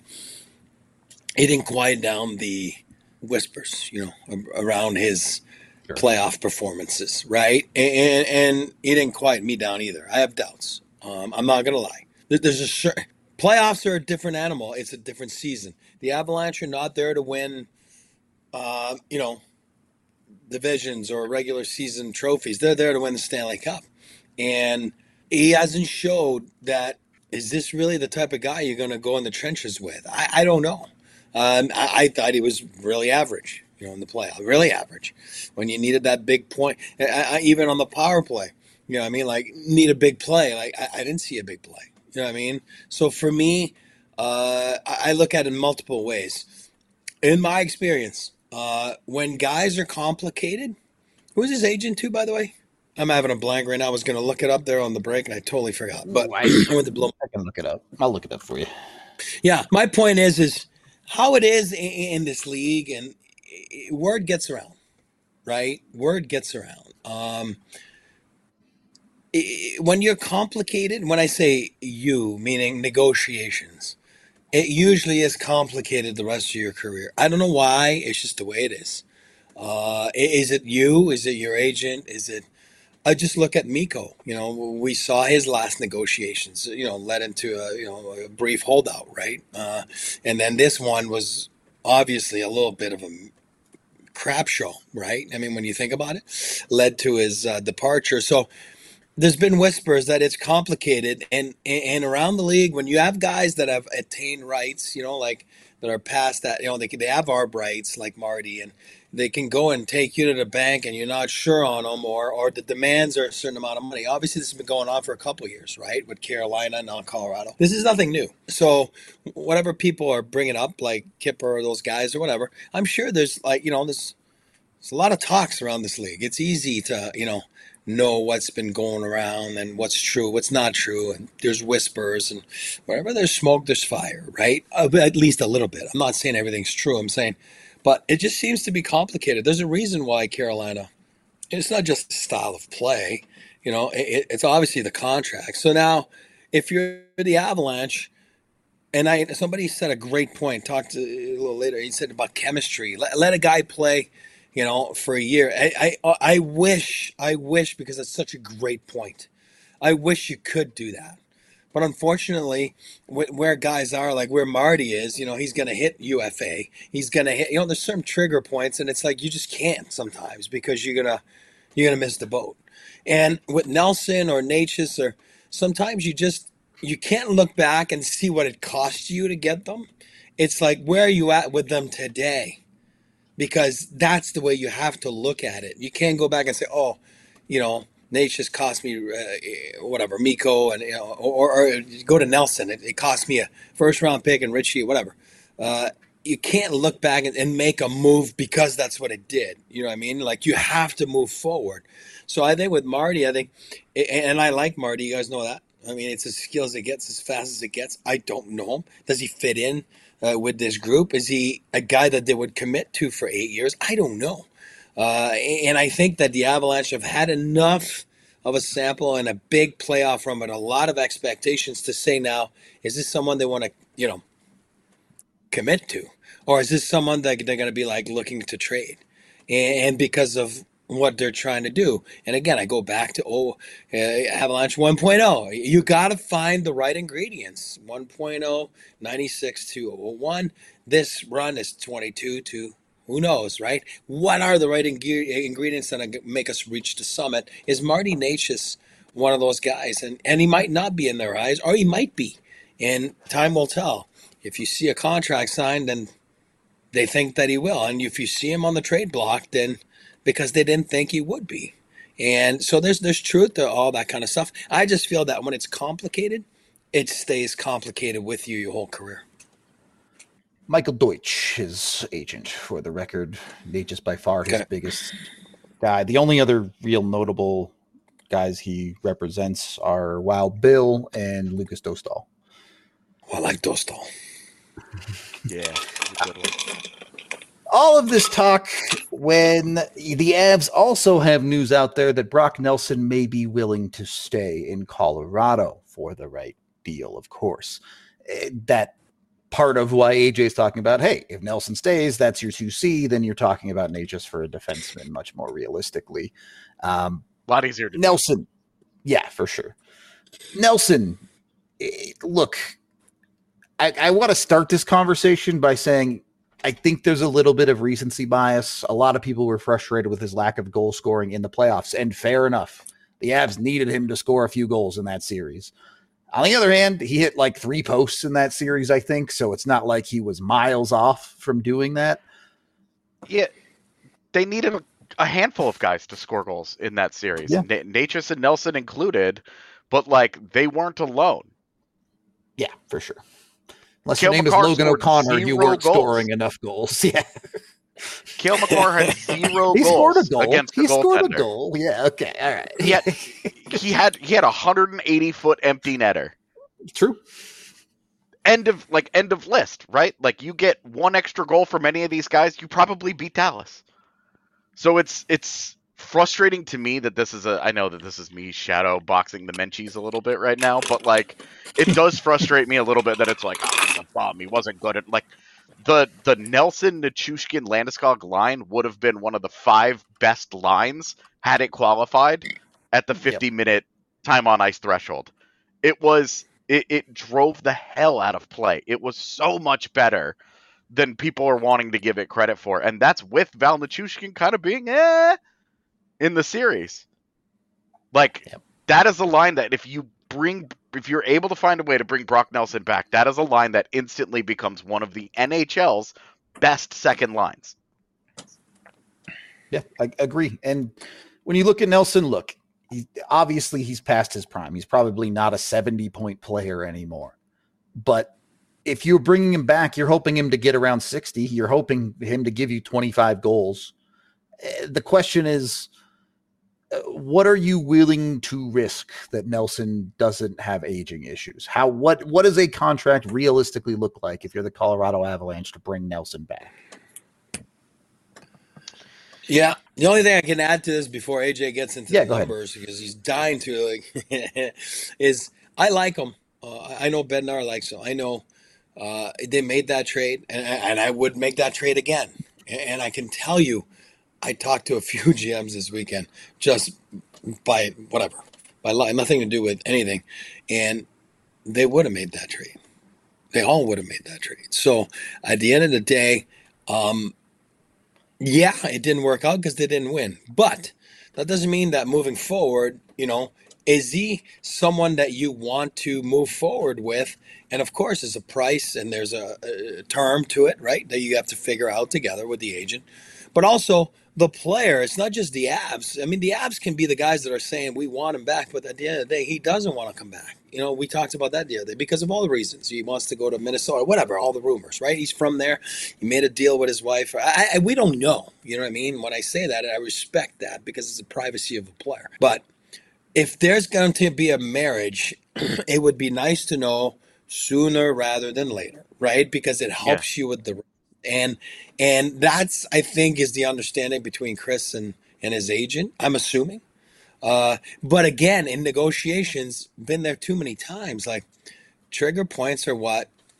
he didn't quiet down the whispers, you know, around his sure. playoff performances, right? And, and he didn't quiet me down either. I have doubts. Um, I'm not gonna lie. There's a certain playoffs are a different animal. It's a different season. The Avalanche are not there to win, uh, you know, divisions or regular season trophies. They're there to win the Stanley Cup. And he hasn't showed that. Is this really the type of guy you're going to go in the trenches with? I, I don't know. Um, I, I thought he was really average, you know, in the playoff, really average when you needed that big point. I, I, even on the power play, you know what I mean? Like, need a big play. Like, I, I didn't see a big play. You know what I mean? So for me, uh, I, I look at it in multiple ways. In my experience, Uh, when guys are complicated, who's his agent too, by the way? I'm having a blank right now. I was going to look it up there on the break, and I totally forgot. But I went to blow. I can look it up. I'll look it up for you. Yeah, my point is, is how it is in, in this league, and word gets around, right? Word gets around. Um, it, when you're complicated, when I say you, meaning negotiations, it usually is complicated the rest of your career. I don't know why. It's just the way it is. Uh, is it you? Is it your agent? Is it? I just look at Mikko. You know, we saw his last negotiations. You know, led into a you know a brief holdout, right? Uh, and then this one was obviously a little bit of a crap show, right? I mean, when you think about it, led to his uh, departure. So. There's been whispers that it's complicated, and and around the league, when you have guys that have attained rights, you know, like that are past that, you know, they they have arb rights like Marty, and they can go and take you to the bank, and you're not sure on them, or or the demands are a certain amount of money. Obviously, this has been going on for a couple of years, right, with Carolina and now Colorado. This is nothing new. So whatever people are bringing up, like Kipper or those guys or whatever, I'm sure there's like you know there's there's a lot of talks around this league. It's easy to you know. know what's been going around and what's true, what's not true, and there's whispers, and wherever there's smoke, there's fire, right? Uh, at least a little bit. I'm not saying everything's true. I'm saying, but it just seems to be complicated. There's a reason why Carolina, it's not just the style of play, you know, it, it's obviously the contract. So now, if you're the Avalanche, and I somebody said a great point, talked to a little later, he said about chemistry. Let, let a guy play, you know, for a year. I, I I wish, I wish, because it's such a great point. I wish you could do that. But unfortunately, where guys are, like where Marty is, you know, he's going to hit U F A. He's going to hit, you know, there's certain trigger points, and it's like you just can't sometimes because you're going to you're going to miss the boat. And with Nelson or Necas, or sometimes you just, you can't look back and see what it cost you to get them. It's like, where are you at with them today? Because that's the way you have to look at it. You can't go back and say, oh, you know, Necas cost me uh, whatever, Mikko, and you know, or, or go to Nelson. It, it cost me a first round pick and Richie, whatever. Uh, you can't look back and, and make a move because that's what it did. You know what I mean? Like, you have to move forward. So I think with Marty, I think, and I like Marty. You guys know that. I mean, it's as skills it gets, as fast as it gets. I don't know him. Does he fit in uh, with this group? Is he a guy that they would commit to for eight years? I don't know. Uh, and I think that the Avalanche have had enough of a sample and a big playoff run, but a lot of expectations to say now, is this someone they want to, you know, commit to? Or is this someone that they're going to be like looking to trade? And because of what they're trying to do. And again, I go back to oh, uh, Avalanche one point oh. You got to find the right ingredients. one point oh, ninety-six to oh one. This run is twenty-two to who knows, right? What are the right ing- ingredients that make us reach the summit? Is Marty Necas one of those guys? And, and he might not be in their eyes, or he might be. And time will tell. If you see a contract signed, then they think that he will. And if you see him on the trade block, then because they didn't think he would be. And so there's there's truth to all that kind of stuff. I just feel that when it's complicated, it stays complicated with you your whole career. Michael Deutsch, his agent, for the record. Necas by far his Okay. biggest guy. The only other real notable guys he represents are Wild Bill and Lucas Dostal. I like Dostal. Yeah. Good one. All of this talk when the Avs also have news out there that Brock Nelson may be willing to stay in Colorado for the right deal, of course. Eh, That part of why A J is talking about, hey, if Nelson stays, that's your two C, then you're talking about Necas for a defenseman much more realistically. Um, A lot easier to do. Nelson, yeah, for sure. Nelson, eh, look, I, I want to start this conversation by saying I think there's a little bit of recency bias. A lot of people were frustrated with his lack of goal scoring in the playoffs, and fair enough. The Avs needed him to score a few goals in that series. On the other hand, he hit like three posts in that series, I think, so it's not like he was miles off from doing that. Yeah, they needed a, a handful of guys to score goals in that series. Yeah. Na- Necas and Nelson included, but like they weren't alone. Yeah, for sure. Unless Cale your name Makar is Logan scored O'Connor, you zero weren't goals. scoring enough goals. Yeah. Cale Makar had zero He scored a goals goal. against the He scored a goaltender. goal. Yeah, okay, all right. He had he had he had a hundred eighty foot empty netter. True. End of like end of list, right? Like you get one extra goal from any of these guys, you probably beat Dallas. So it's it's frustrating to me that this is a I know that this is me shadow boxing the Menchies a little bit right now, but like it does frustrate me a little bit that it's like, oh, he's a bum. He wasn't good at like the the Nelson, Nichushkin, Landeskog line would have been one of the five best lines had it qualified at the fifty minute time on ice threshold. It was it, it drove the hell out of play. It was so much better than people are wanting to give it credit for. And that's with Val Nichushkin kind of being eh in the series. Like Yep. that is a line that if you bring if you're able to find a way to bring Brock Nelson back, that is a line that instantly becomes one of the N H L's best second lines. Yeah, I agree. And when you look at Nelson, look, he, obviously he's past his prime. He's probably not a seventy-point player anymore. But if you're bringing him back, you're hoping him to get around sixty. You're hoping him to give you twenty-five goals. Eh, The question is, uh, what are you willing to risk that Nelson doesn't have aging issues? How what what does a contract realistically look like if you're the Colorado Avalanche to bring Nelson back? Yeah. The only thing I can add to this before A J gets into Yeah, the go ahead. numbers, because he's dying to, like, is I like him. Uh, I know Bednar likes him. I know uh, they made that trade, and, and I would make that trade again. And I can tell you, I talked to a few G Ms this weekend, just by whatever, by li- nothing to do with anything, and they would have made that trade. They all would have made that trade. So at the end of the day, um, yeah, it didn't work out because they didn't win. But that doesn't mean that moving forward, you know, is he someone that you want to move forward with? And of course, there's a price and there's a, a term to it, right? That you have to figure out together with the agent. But also the player, it's not just the Avs. I mean, the Avs can be the guys that are saying we want him back, but at the end of the day, he doesn't want to come back. You know, we talked about that the other day because of all the reasons. He wants to go to Minnesota, whatever, all the rumors, right? He's from there. He made a deal with his wife. I, I, we don't know. You know what I mean? When I say that, I respect that because it's the privacy of a player. But if there's going to be a marriage, it would be nice to know sooner rather than later, right? Because it helps you with the and and that's I think is the understanding between Chris and and his agent. I'm assuming, uh, but again, in negotiations, been there too many times. Like trigger points are what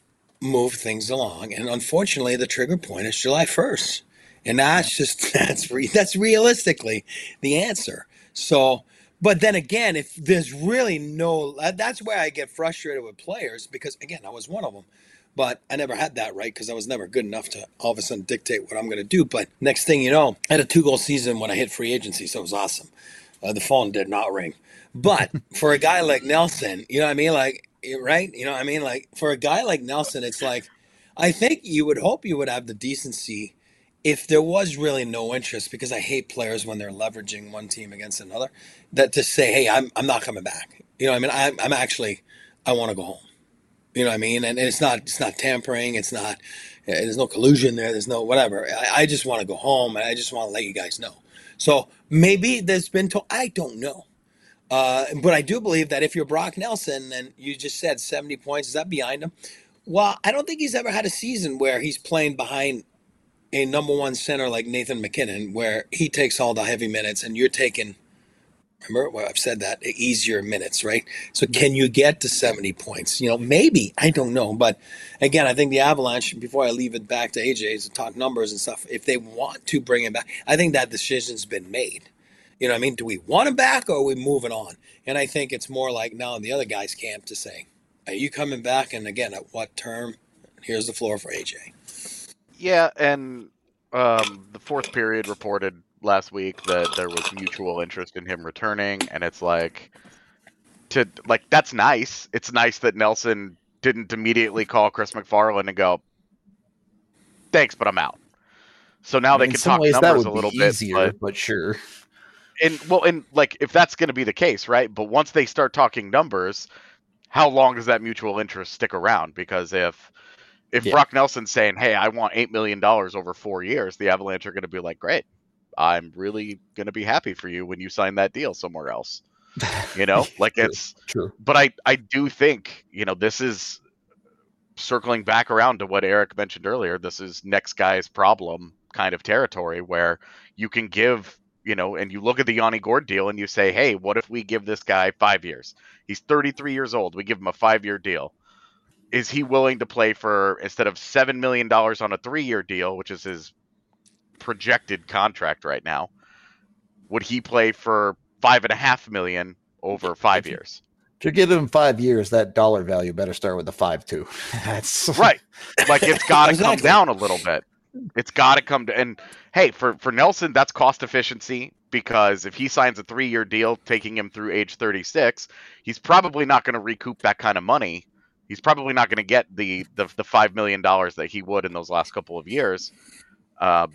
move things along. And unfortunately, the trigger point is July first. And that's just, that's re, that's realistically the answer. So, but then again, if there's really no, that's where I get frustrated with players because, again, I was one of them. But I never had that right because I was never good enough to all of a sudden dictate what I'm going to do. But next thing you know, I had a two-goal season when I hit free agency, so it was awesome. Uh, the phone did not ring. But for a guy like Nelson, you know what I mean? Like, right? You know what I mean? Like, for a guy like Nelson, it's like, I think you would hope you would have the decency if there was really no interest, because I hate players when they're leveraging one team against another, that to say, hey, I'm I'm not coming back. You know what I mean? I'm, I'm actually, I want to go home. You know what I mean? And, and it's not it's not tampering. It's not, there's no collusion there. There's no whatever. I, I just want to go home, and I just want to let you guys know. So maybe there's been, to, I don't know. Uh, but I do believe that if you're Brock Nelson, and you just said seventy points, is that behind him? Well, I don't think he's ever had a season where he's playing behind a number one center like Nathan McKinnon, where he takes all the heavy minutes and you're taking, remember, well, I've said that, easier minutes, right? So can you get to seventy points? You know, maybe, I don't know. But again, I think the Avalanche, before I leave it back to A J to talk numbers and stuff, if they want to bring him back, I think that decision's been made. You know what I mean? Do we want him back or are we moving on? And I think it's more like now in the other guy's camp to say, are you coming back? And again, at what term? Here's the floor for A J. Yeah, and um, the fourth period reported last week that there was mutual interest in him returning, and it's like, to like that's nice. It's nice that Nelson didn't immediately call Chris McFarland and go, "Thanks, but I'm out." So now they In can some talk ways, that numbers would a little be bit, easier, but, but sure. and well, and like if that's going to be the case, right? But once they start talking numbers, how long does that mutual interest stick around? Because if if Yeah. Brock Nelson's saying, "Hey, I want eight million dollars over four years," the Avalanche are going to be like, "Great, I'm really going to be happy for you when you sign that deal somewhere else." You know, like True, it's true. But I I do think, you know, this is circling back around to what Eric mentioned earlier. This is next guy's problem kind of territory where you can give, you know, and you look at the Yanni Gourde deal and you say, hey, what if we give this guy five years? He's thirty-three years old. We give him a five-year deal. Is he willing to play for, instead of seven million dollars on a three-year deal, which is his projected contract right now, would he play for five and a half million over five years? To give him five years, that dollar value better start with a five too. That's right. Like it's got to Exactly. come down a little bit. It's got to come to, and hey, for for Nelson, that's cost efficiency, because if he signs a three-year deal taking him through age thirty-six, he's probably not going to recoup that kind of money. He's probably not going to get the the the five million dollars that he would in those last couple of years. Uh,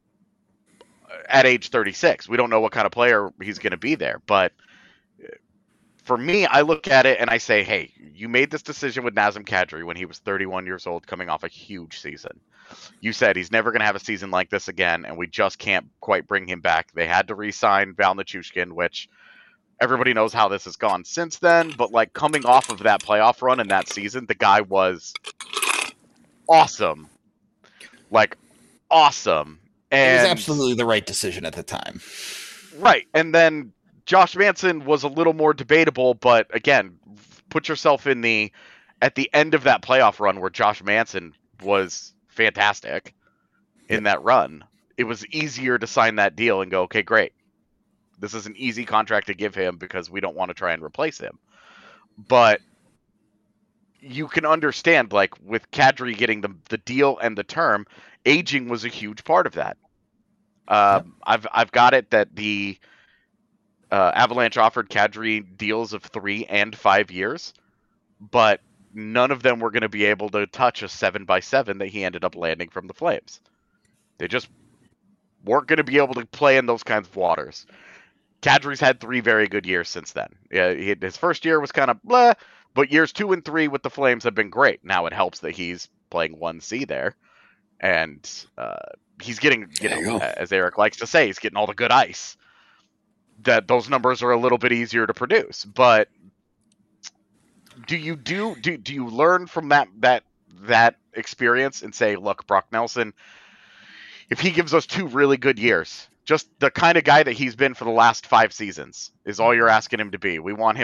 at age thirty-six, we don't know what kind of player he's going to be there, but for me, I look at it and I say, hey, you made this decision with Nazem Kadri when he was thirty-one years old, coming off a huge season. You said he's never going to have a season like this again, and we just can't quite bring him back. They had to re-sign Val Nichushkin, which everybody knows how this has gone since then, but like coming off of that playoff run in that season, the guy was awesome. Like, awesome. And it was absolutely the right decision at the time. Right. And then Josh Manson was a little more debatable, but again, put yourself in the at the end of that playoff run where Josh Manson was fantastic in that run. It was easier to sign that deal and go, okay, great. This is an easy contract to give him because we don't want to try and replace him. But you can understand, like with Kadri getting the the deal and the term, aging was a huge part of that. Um, yep. I've I've got it that the Uh, Avalanche offered Kadri deals of three and five years, but none of them were going to be able to touch a seven by seven that he ended up landing from the Flames. They just weren't going to be able to play in those kinds of waters. Kadri's had three very good years since then. Yeah, he, his first year was kind of blah, but years two and three with the Flames have been great. Now it helps that he's playing one C there, and uh, he's getting, you know, you as Eric likes to say, he's getting all the good ice. That those numbers are a little bit easier to produce. But do you do do do you learn from that that that experience and say, look, Brock Nelson, if he gives us two really good years, just the kind of guy that he's been for the last five seasons is all you're asking him to be. We want him to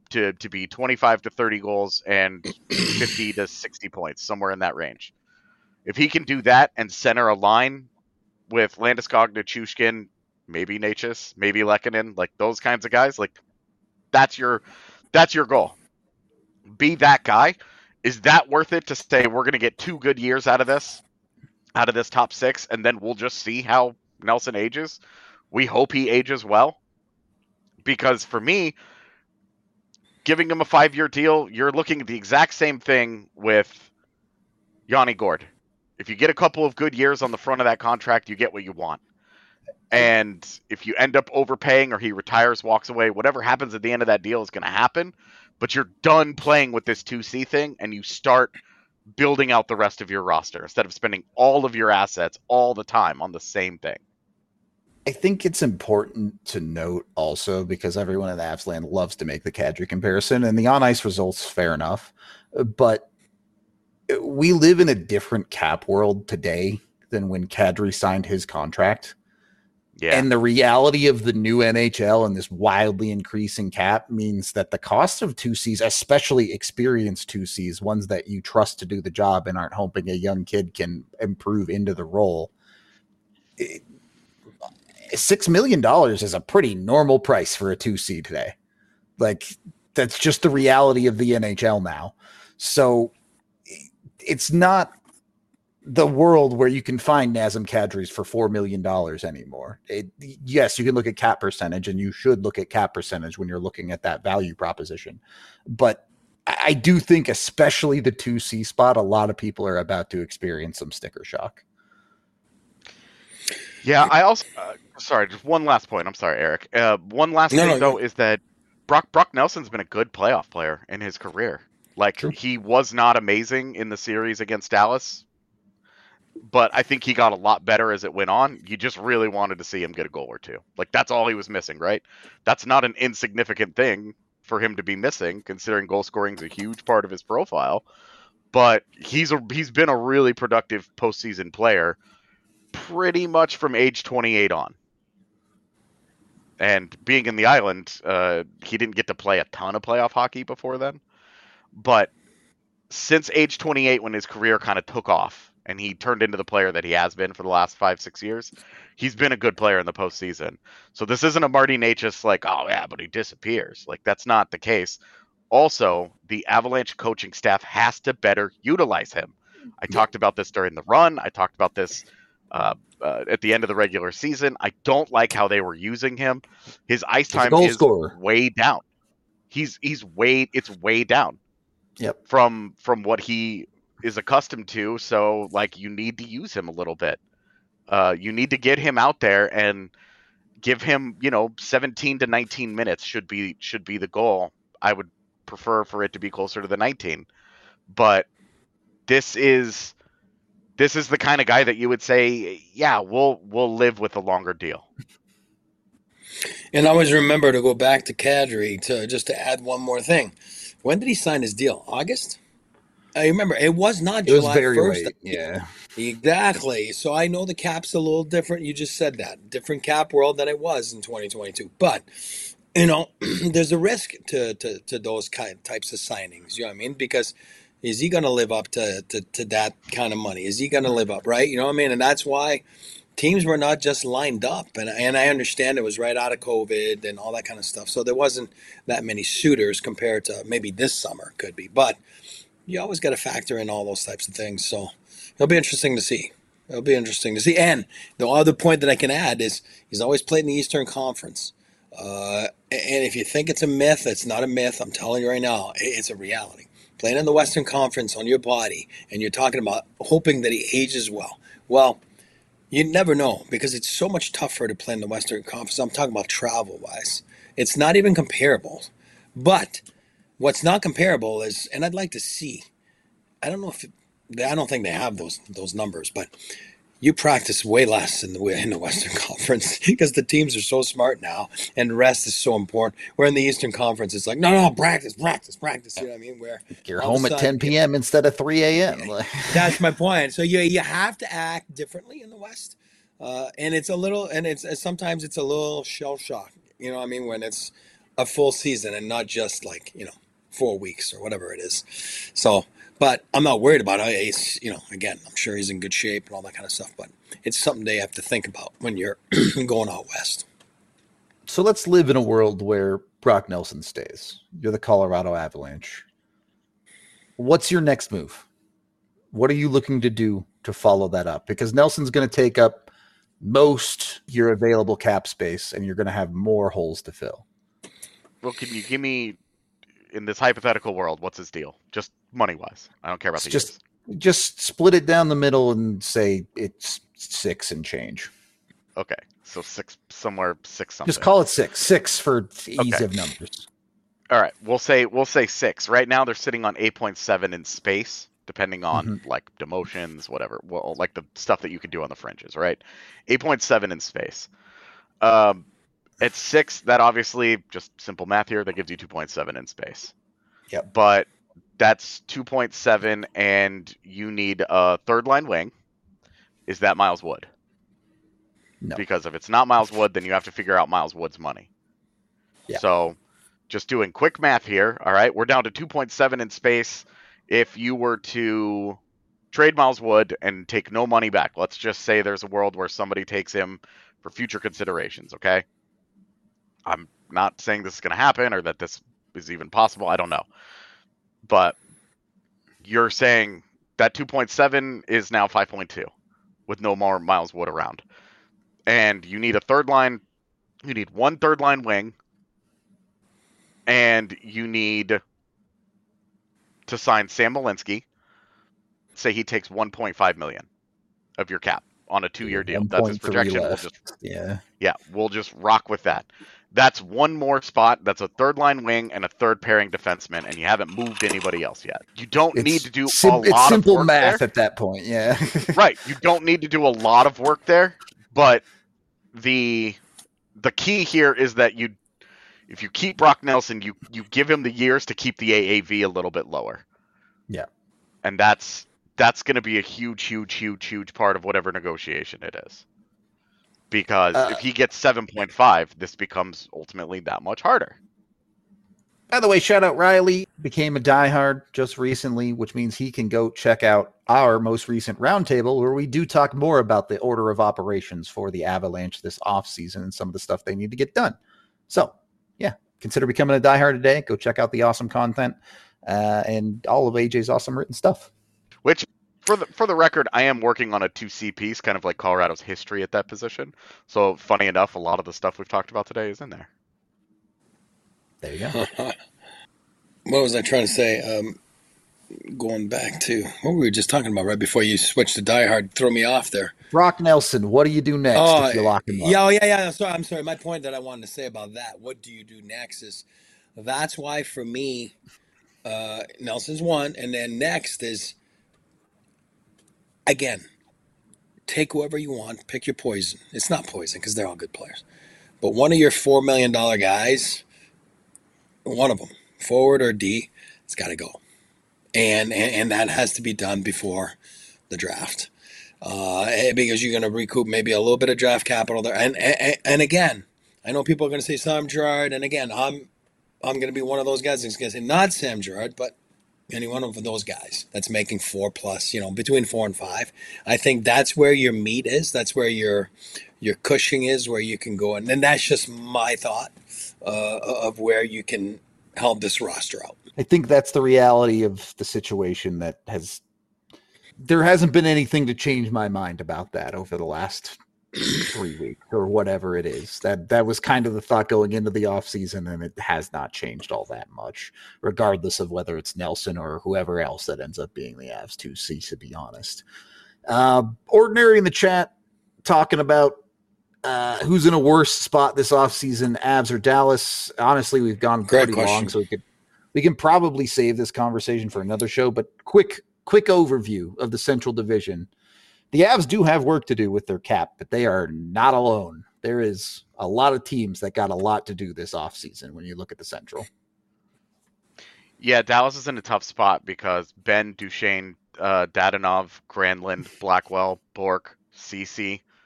to to be twenty-five to thirty goals and fifty to sixty points, somewhere in that range. If he can do that and center a line with Landeskog, Nichushkin, maybe Natchez, maybe Lehkonen, like those kinds of guys, like that's your that's your goal. Be that guy. Is that worth it to say we're going to get two good years out of this, out of this top six, and then we'll just see how Nelson ages? We hope he ages well. Because for me, giving him a five-year deal, you're looking at the exact same thing with Yanni Gourde. If you get a couple of good years on the front of that contract, you get what you want. And if you end up overpaying or he retires, walks away, whatever happens at the end of that deal is going to happen. But you're done playing with this two C thing, and you start building out the rest of your roster instead of spending all of your assets all the time on the same thing. I think it's important to note also, because everyone in the Avs land loves to make the Kadri comparison, and the on-ice results, fair enough. But we live in a different cap world today than when Kadri signed his contract. Yeah. And the reality of the new N H L and this wildly increasing cap means that the cost of two Cs, especially experienced two Cs, ones that you trust to do the job and aren't hoping a young kid can improve into the role, it, six million dollars is a pretty normal price for a two C today. Like, that's just the reality of the N H L now. So it's not the world where you can find Nazem Kadris for four million dollars anymore. It, yes, you can look at cap percentage, and you should look at cap percentage when you're looking at that value proposition. But I do think, especially the two C spot, a lot of people are about to experience some sticker shock. Yeah, I also uh, sorry, just one last point. I'm sorry, Eric. Uh, one last No, thing no, though no. is that Brock Brock Nelson's been a good playoff player in his career. Like, True. He was not amazing in the series against Dallas, but I think he got a lot better as it went on. You just really wanted to see him get a goal or two. Like, that's all he was missing, right? That's not an insignificant thing for him to be missing, considering goal scoring is a huge part of his profile. But he's a he's been a really productive postseason player pretty much from age twenty-eight on. And being in the island, uh, he didn't get to play a ton of playoff hockey before then. But since age twenty-eight, when his career kind of took off and he turned into the player that he has been for the last five, six years, he's been a good player in the postseason. So this isn't a Marty Natchez like, oh yeah, but he disappears. Like, that's not the case. Also, the Avalanche coaching staff has to better utilize him. I talked about this during the run. I talked about this Uh, uh, at the end of the regular season. I don't like how they were using him. His ice He's a time goal is scorer. way down. He's he's way it's way down. Yep. From from what he is accustomed to. So like, you need to use him a little bit. Uh, you need to get him out there and give him, you know, seventeen to nineteen minutes should be should be the goal. I would prefer for it to be closer to the nineteen. But this is This is the kind of guy that you would say, yeah, we'll we'll live with a longer deal. And I always remember to go back to Kadri to just to add one more thing. When did he sign his deal? August? I remember it was not It was July very first. late. Yeah. Exactly. So I know the cap's a little different. You just said that. Different cap world than it was in twenty twenty-two. But, you know, there's a risk to, to, to those kind types of signings. You know what I mean? Because is he going to live up to, to, to that kind of money? Is he going to live up, right? You know what I mean? And that's why teams were not just lined up. And, and I understand it was right out of COVID and all that kind of stuff. So there wasn't that many suitors compared to maybe this summer could be. But you always got to factor in all those types of things. So it'll be interesting to see. It'll be interesting to see. And the other point that I can add is he's always played in the Eastern Conference. Uh, and if you think it's a myth, it's not a myth. I'm telling you right now, it's a reality. Playing in the Western Conference on your body, and you're talking about hoping that he ages well. Well, you never know, because it's so much tougher to play in the Western Conference. I'm talking about travel-wise. It's not even comparable. But what's not comparable is, and I'd like to see, I don't know if, it, I don't think they have those those numbers, but you practice way less in the in the Western Conference because the teams are so smart now, and rest is so important. Where in the Eastern Conference, it's like, no, no, practice, practice, practice. You know what I mean? Where You're home at ten p.m. instead of three a.m. That's my point. So you you have to act differently in the West, uh, and it's a little, and it's sometimes it's a little shell shock. You know what I mean? When it's a full season and not just like, you know, four weeks or whatever it is. So, but I'm not worried about it. He's, you know, again, I'm sure he's in good shape and all that kind of stuff, but it's something they have to think about when you're going out west. So let's live in a world where Brock Nelson stays. You're the Colorado Avalanche. What's your next move? What are you looking to do to follow that up? Because Nelson's going to take up most your available cap space, and you're going to have more holes to fill. Well, can you give me, in this hypothetical world, what's his deal? Just money-wise. I don't care about It's the just years. just split it down the middle and say it's six and change. Okay, so six, somewhere six something. Just call it six. Six for ease Okay. of numbers. All right, we'll say we'll say six. Right now they're sitting on eight point seven in space, depending on Mhm. like demotions, whatever. Well, like the stuff that you can do on the fringes, right? eight point seven in space. Um, at six, that obviously just simple math here. That gives you two point seven in space. Yep. But that's two point seven, and you need a third line wing. Is that Miles Wood? No. Because if it's not Miles Wood, then you have to figure out Miles Wood's money. Yeah. So just doing quick math here. All right. We're down to two point seven in space. If you were to trade Miles Wood and take no money back, let's just say there's a world where somebody takes him for future considerations. Okay. I'm not saying this is going to happen or that this is even possible. I don't know. But you're saying that two point seven is now five point two with no more Miles Wood around. And you need a third line. You need one third line wing. And you need to sign Sam Malinsky. Say he takes one point five million of your cap on a two-year deal. That's his projection. We'll just yeah. Yeah, we'll just rock with that. That's one more spot. That's a third line wing and a third pairing defenseman, and you haven't moved anybody else yet. You don't It's need to do sim- a lot it's simple of work math there. at that point. Yeah. Right. You don't need to do a lot of work there, but the the key here is that you if you keep Brock Nelson, you you give him the years to keep the A A V a little bit lower. Yeah. And that's that's going to be a huge, huge, huge, huge part of whatever negotiation it is. Because Uh, if he gets seven point five, this becomes ultimately that much harder. By the way, shout out Riley, became a diehard just recently, which means he can go check out our most recent roundtable where we do talk more about the order of operations for the Avalanche this offseason and some of the stuff they need to get done. So, yeah, consider becoming a diehard today. Go check out the awesome content uh, and all of A J's awesome written stuff. Which, for the for the record, I am working on a two C piece, kind of like Colorado's history at that position. So, funny enough, a lot of the stuff we've talked about today is in there. There you go. What was I trying to say? Um, going back to what we were just talking about right before you switched to Die Hard, throw me off there. Brock Nelson, what do you do next Oh, if you lock him up? yeah, oh, yeah, yeah. I'm sorry, I'm sorry. My point that I wanted to say about that, what do you do next, is that's why for me, uh, Nelson's one, and then next is, again, take whoever you want, pick your poison. It's not poison because they're all good players. But one of your four million dollars guys, one of them, forward or D, it's got to go. And, and and that has to be done before the draft. Uh, because you're going to recoup maybe a little bit of draft capital there. And, and and again, I know people are going to say Sam Girard, and again, I'm I'm going to be one of those guys that's going to say not Sam Girard, but any one of those guys that's making four plus, you know, between four and five. I think that's where your meat is. That's where your your cushion is, where you can go. And, and that's just my thought uh, of where you can help this roster out. I think that's the reality of the situation that has there hasn't been anything to change my mind about that over the last three weeks or whatever it is. That that was kind of the thought going into the offseason, and it has not changed all that much, regardless of whether it's Nelson or whoever else that ends up being the Avs two C, to be honest. Uh, Ordinary in the chat talking about uh, who's in a worse spot this offseason, Avs or Dallas. Honestly, we've gone Great pretty question. long, so we could we can probably save this conversation for another show, but quick quick overview of the Central Division. The Avs do have work to do with their cap, but they are not alone. There is a lot of teams that got a lot to do this offseason when you look at the Central. Yeah, Dallas is in a tough spot because Ben, Duchesne, uh, Dadonov, Granlund, Blackwell, Bork, Cece,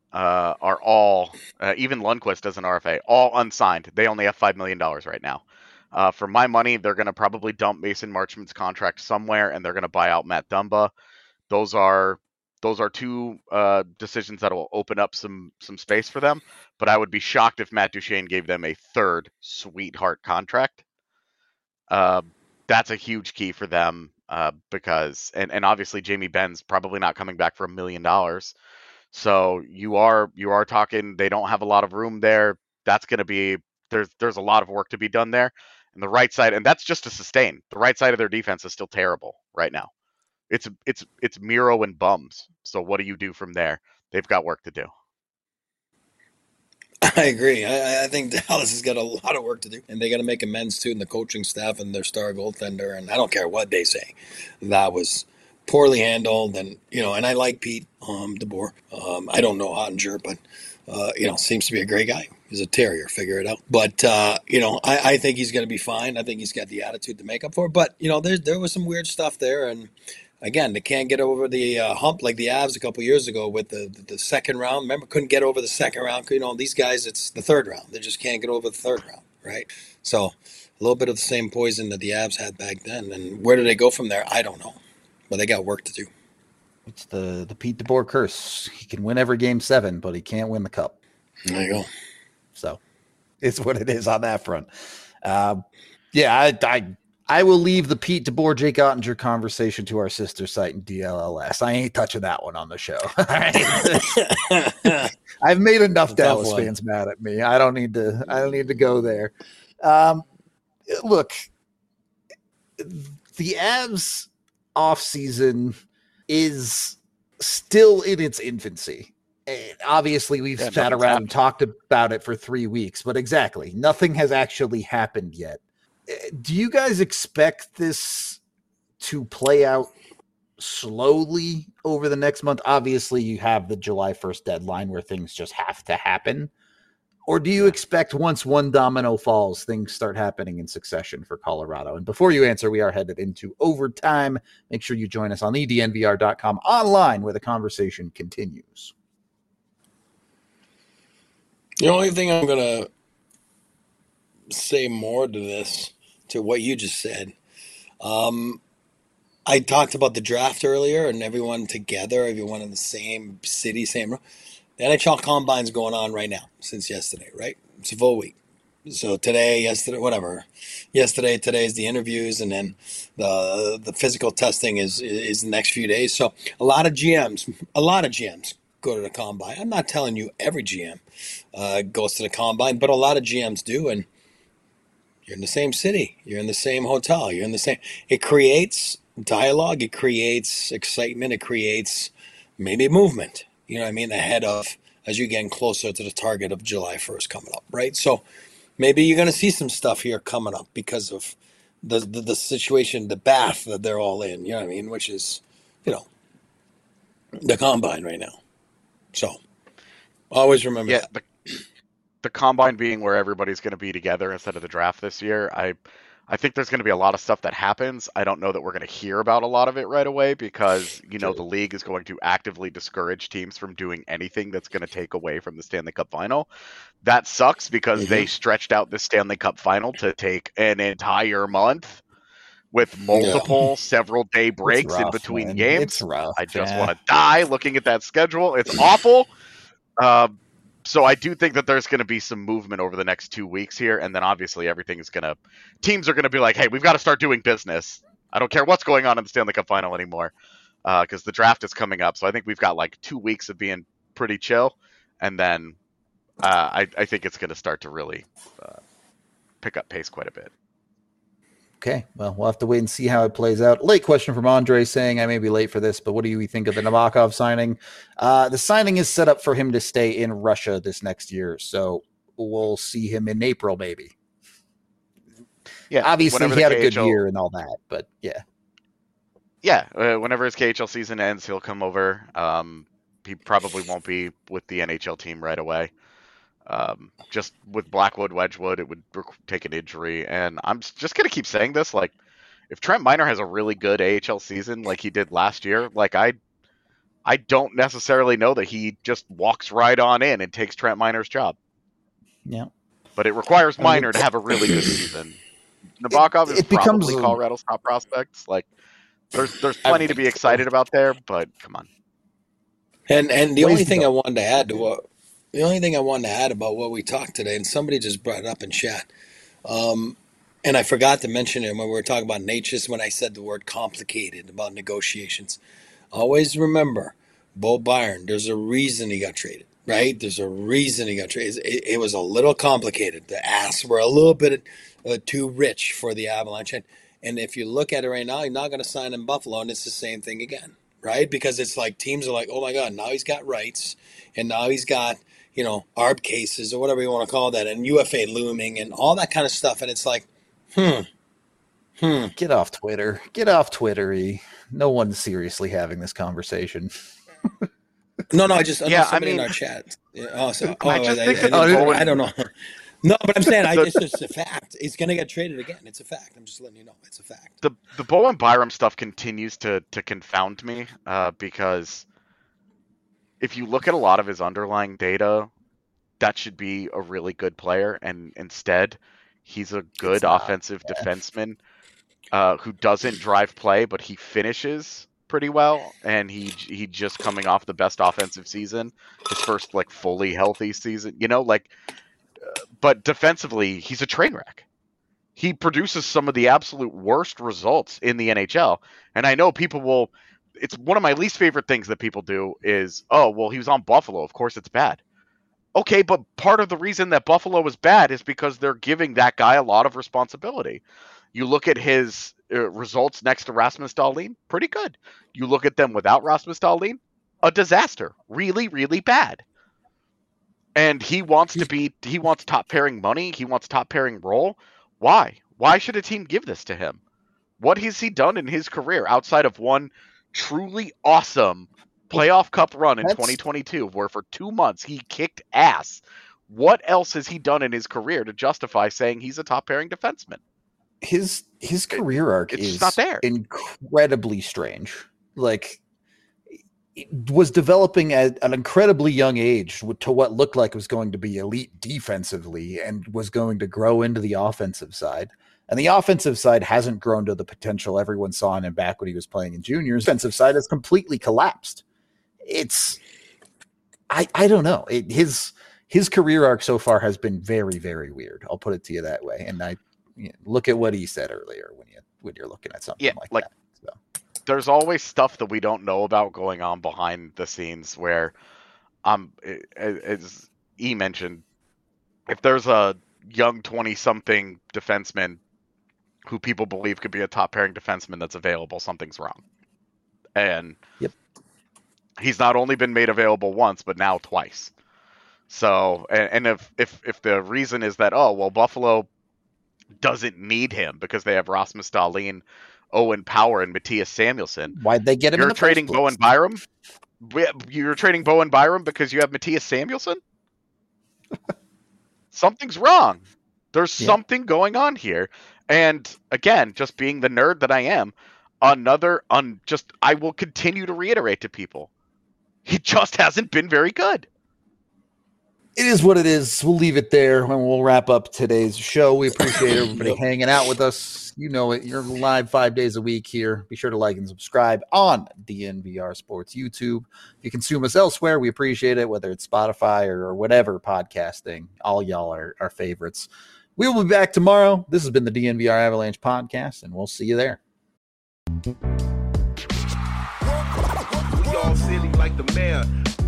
uh, are all, uh, even Lundqvist as an R F A, all unsigned. They only have five million dollars right now. Uh, for my money, they're going to probably dump Mason Marchment's contract somewhere, and they're going to buy out Matt Dumba. Those are those are two uh, decisions that will open up some some space for them. But I would be shocked if Matt Duchene gave them a third sweetheart contract. Uh, that's a huge key for them uh, because, and, and obviously Jamie Benn's probably not coming back for a million dollars. So you are you are talking they don't have a lot of room there. That's going to be there's there's a lot of work to be done there. And the right side, and that's just to sustain. The right side of their defense is still terrible right now. It's it's it's Miro and bums. So what do you do from there? They've got work to do. I agree. I, I think Dallas has got a lot of work to do, and they got to make amends too in the coaching staff and their star goaltender. And I don't care what they say, that was poorly handled. And you know, and I like Pete um, DeBoer. Um, I don't know Ottinger, but uh, you know, seems to be a great guy. He's a terrier. Figure it out. But uh, you know, I, I think he's going to be fine. I think he's got the attitude to make up for it. But you know, there there was some weird stuff there, and again, they can't get over the uh, hump like the Avs a couple years ago with the, the the second round. Remember, couldn't get over the second round. You know, these guys, it's the third round. They just can't get over the third round, right? So a little bit of the same poison that the Avs had back then. And where do they go from there? I don't know. But they got work to do. It's the, the Pete DeBoer curse. He can win every game seven, but he can't win the cup. There you go. So it's what it is on that front. Um, yeah, I, I I will leave the Pete DeBoer, Jake Ottinger conversation to our sister site in D L L S. I ain't touching that one on the show. I've made enough Dallas fans mad at me. I don't need to. I don't need to go there. Um, look, the Avs offseason is still in its infancy. And obviously, we've yeah, sat around happened. and talked about it for three weeks, but exactly, nothing has actually happened yet. Do you guys expect this to play out slowly over the next month? Obviously, you have the July first deadline where things just have to happen. Or do you yeah. expect once one domino falls, things start happening in succession for Colorado? And before you answer, we are headed into overtime. Make sure you join us on E D N V R dot com online where the conversation continues. The only thing I'm going to say more to this, to what you just said, um, I talked about the draft earlier and everyone together, everyone in the same city, same room. The N H L Combine's going on right now since yesterday, right? It's a full week. So today, yesterday, whatever. Yesterday, today is the interviews, and then the the physical testing is is the next few days. So a lot of G Ms, a lot of G Ms go to the Combine. I'm not telling you every G M uh, goes to the Combine, but a lot of G Ms do, and you're in the same city. You're in the same hotel. You're in the same. It creates dialogue. It creates excitement. It creates maybe movement. You know what I mean? Ahead of, as you're getting closer to the target of July first coming up, right? So maybe you're going to see some stuff here coming up because of the, the the situation, the bath that they're all in, you know what I mean? Which is, you know, the Combine right now. So always remember yeah, that. The, the Combine being where everybody's going to be together instead of the draft this year, I I think there's going to be a lot of stuff that happens. I don't know that we're going to hear about a lot of it right away because, you know, the league is going to actively discourage teams from doing anything that's going to take away from the Stanley Cup final. That sucks because mm-hmm. they stretched out the Stanley Cup final to take an entire month with multiple yeah. several day breaks rough, in between man. games. It's rough, I just yeah. want to die looking at that schedule. It's awful. Um, So I do think that there's going to be some movement over the next two weeks here, and then obviously everything is going to – teams are going to be like, hey, we've got to start doing business. I don't care what's going on in the Stanley Cup final anymore because uh, the draft is coming up. So I think we've got like two weeks of being pretty chill, and then uh, I, I think it's going to start to really uh, pick up pace quite a bit. Okay, well, we'll have to wait and see how it plays out. Late question from Andre saying, I may be late for this, but what do you think of the Nabokov signing? Uh, the signing is set up for him to stay in Russia this next year, so we'll see him in April maybe. Yeah, obviously he had K H L, a good year and all that, but yeah. Yeah, uh, whenever his K H L season ends, he'll come over. Um, he probably won't be with the N H L team right away. Um, just with Blackwood, Wedgwood, it would take an injury. And I'm just going to keep saying this. Like, if Trent Miner has a really good A H L season like he did last year, like, I I don't necessarily know that he just walks right on in and takes Trent Miner's job. Yeah. But it requires Miner to have a really good season. Nabokov is it becomes probably a- Colorado's top prospects. Like, there's there's plenty to be excited about there, but come on. And and the Ways only to thing go. I wanted to add to what the only thing I wanted to add about what we talked today, and somebody just brought it up in chat, um, and I forgot to mention it when we were talking about Natchez when I said the word complicated about negotiations. Always remember, Bo Byron. There's a reason he got traded, right? There's a reason he got traded. It, it was a little complicated. The asks were a little bit uh, too rich for the Avalanche, and, and if you look at it right now, you're not going to sign in Buffalo, and it's the same thing again. Right? Because it's like teams are like, oh my God, now he's got rights and now he's got, you know, A R B cases or whatever you want to call that and U F A looming and all that kind of stuff. And it's like, hmm, hmm. Get off Twitter. Get off Twitter. E. No one's seriously having this conversation. No, no, I just, I Yeah, know I somebody mean- in our chat. Yeah, oh, so, oh, I just I, think I, that I, the didn't- Bowen- I don't know. No, but I'm saying I, it's just a fact. It's going to get traded again. It's a fact. I'm just letting you know. It's a fact. The the Bowen Byram stuff continues to to confound me uh, because if you look at a lot of his underlying data, that should be a really good player, and instead he's a good It's not. offensive defenseman uh, who doesn't drive play, but he finishes pretty well, and he he just coming off the best offensive season, his first like fully healthy season, you know, like. Uh, but defensively, he's a train wreck. He produces some of the absolute worst results in the N H L, and I know people will. It's one of my least favorite things that people do is, oh, well, he was on Buffalo. Of course, it's bad. Okay, but part of the reason that Buffalo was bad is because they're giving that guy a lot of responsibility. You look at his uh, results next to Rasmus Dahlin, pretty good. You look at them without Rasmus Dahlin, a disaster. Really, really bad. And he wants to be, he wants top pairing money. He wants top pairing role. Why? Why should a team give this to him? What has he done in his career outside of one truly awesome playoff cup run in That's- twenty twenty-two where for two months he kicked ass? What else has he done in his career to justify saying he's a top pairing defenseman? His his career arc it's is just not there. incredibly strange. Like, it was developing at an incredibly young age to what looked like was going to be elite defensively and was going to grow into the offensive side. And the offensive side hasn't grown to the potential everyone saw in him back when he was playing in juniors. The defensive side has completely collapsed. It's, I, I don't know. It, his his career arc so far has been very, very weird. I'll put it to you that way. And I you know, look at what he said earlier when you when you're looking at something Yeah, like, like- that. So. There's always stuff that we don't know about going on behind the scenes where, um, as E mentioned, if there's a young twenty-something defenseman who people believe could be a top pairing defenseman that's available, something's wrong. And Yep. he's not only been made available once, but now twice. So, and, and if, if, if the reason is that, oh, well, Buffalo doesn't need him because they have Rasmus Dahlin, Owen Power, and Matthias Samuelsson. Why'd they get him? in You're the trading first Bowen place? Byram? You're trading Bowen Byram because you have Matthias Samuelsson? Something's wrong. There's Yeah. something going on here. And again, just being the nerd that I am, another un just I will continue to reiterate to people. He just hasn't been very good. It is what it is. We'll leave it there and we'll wrap up today's show. We appreciate everybody Yep. hanging out with us. You know it. You're live five days a week here. Be sure to like and subscribe on D N V R Sports YouTube. If you consume us elsewhere, we appreciate it, whether it's Spotify or whatever podcasting. All y'all are our favorites. We will be back tomorrow. This has been the D N V R Avalanche podcast, and we'll see you there. We all silly like the mayor.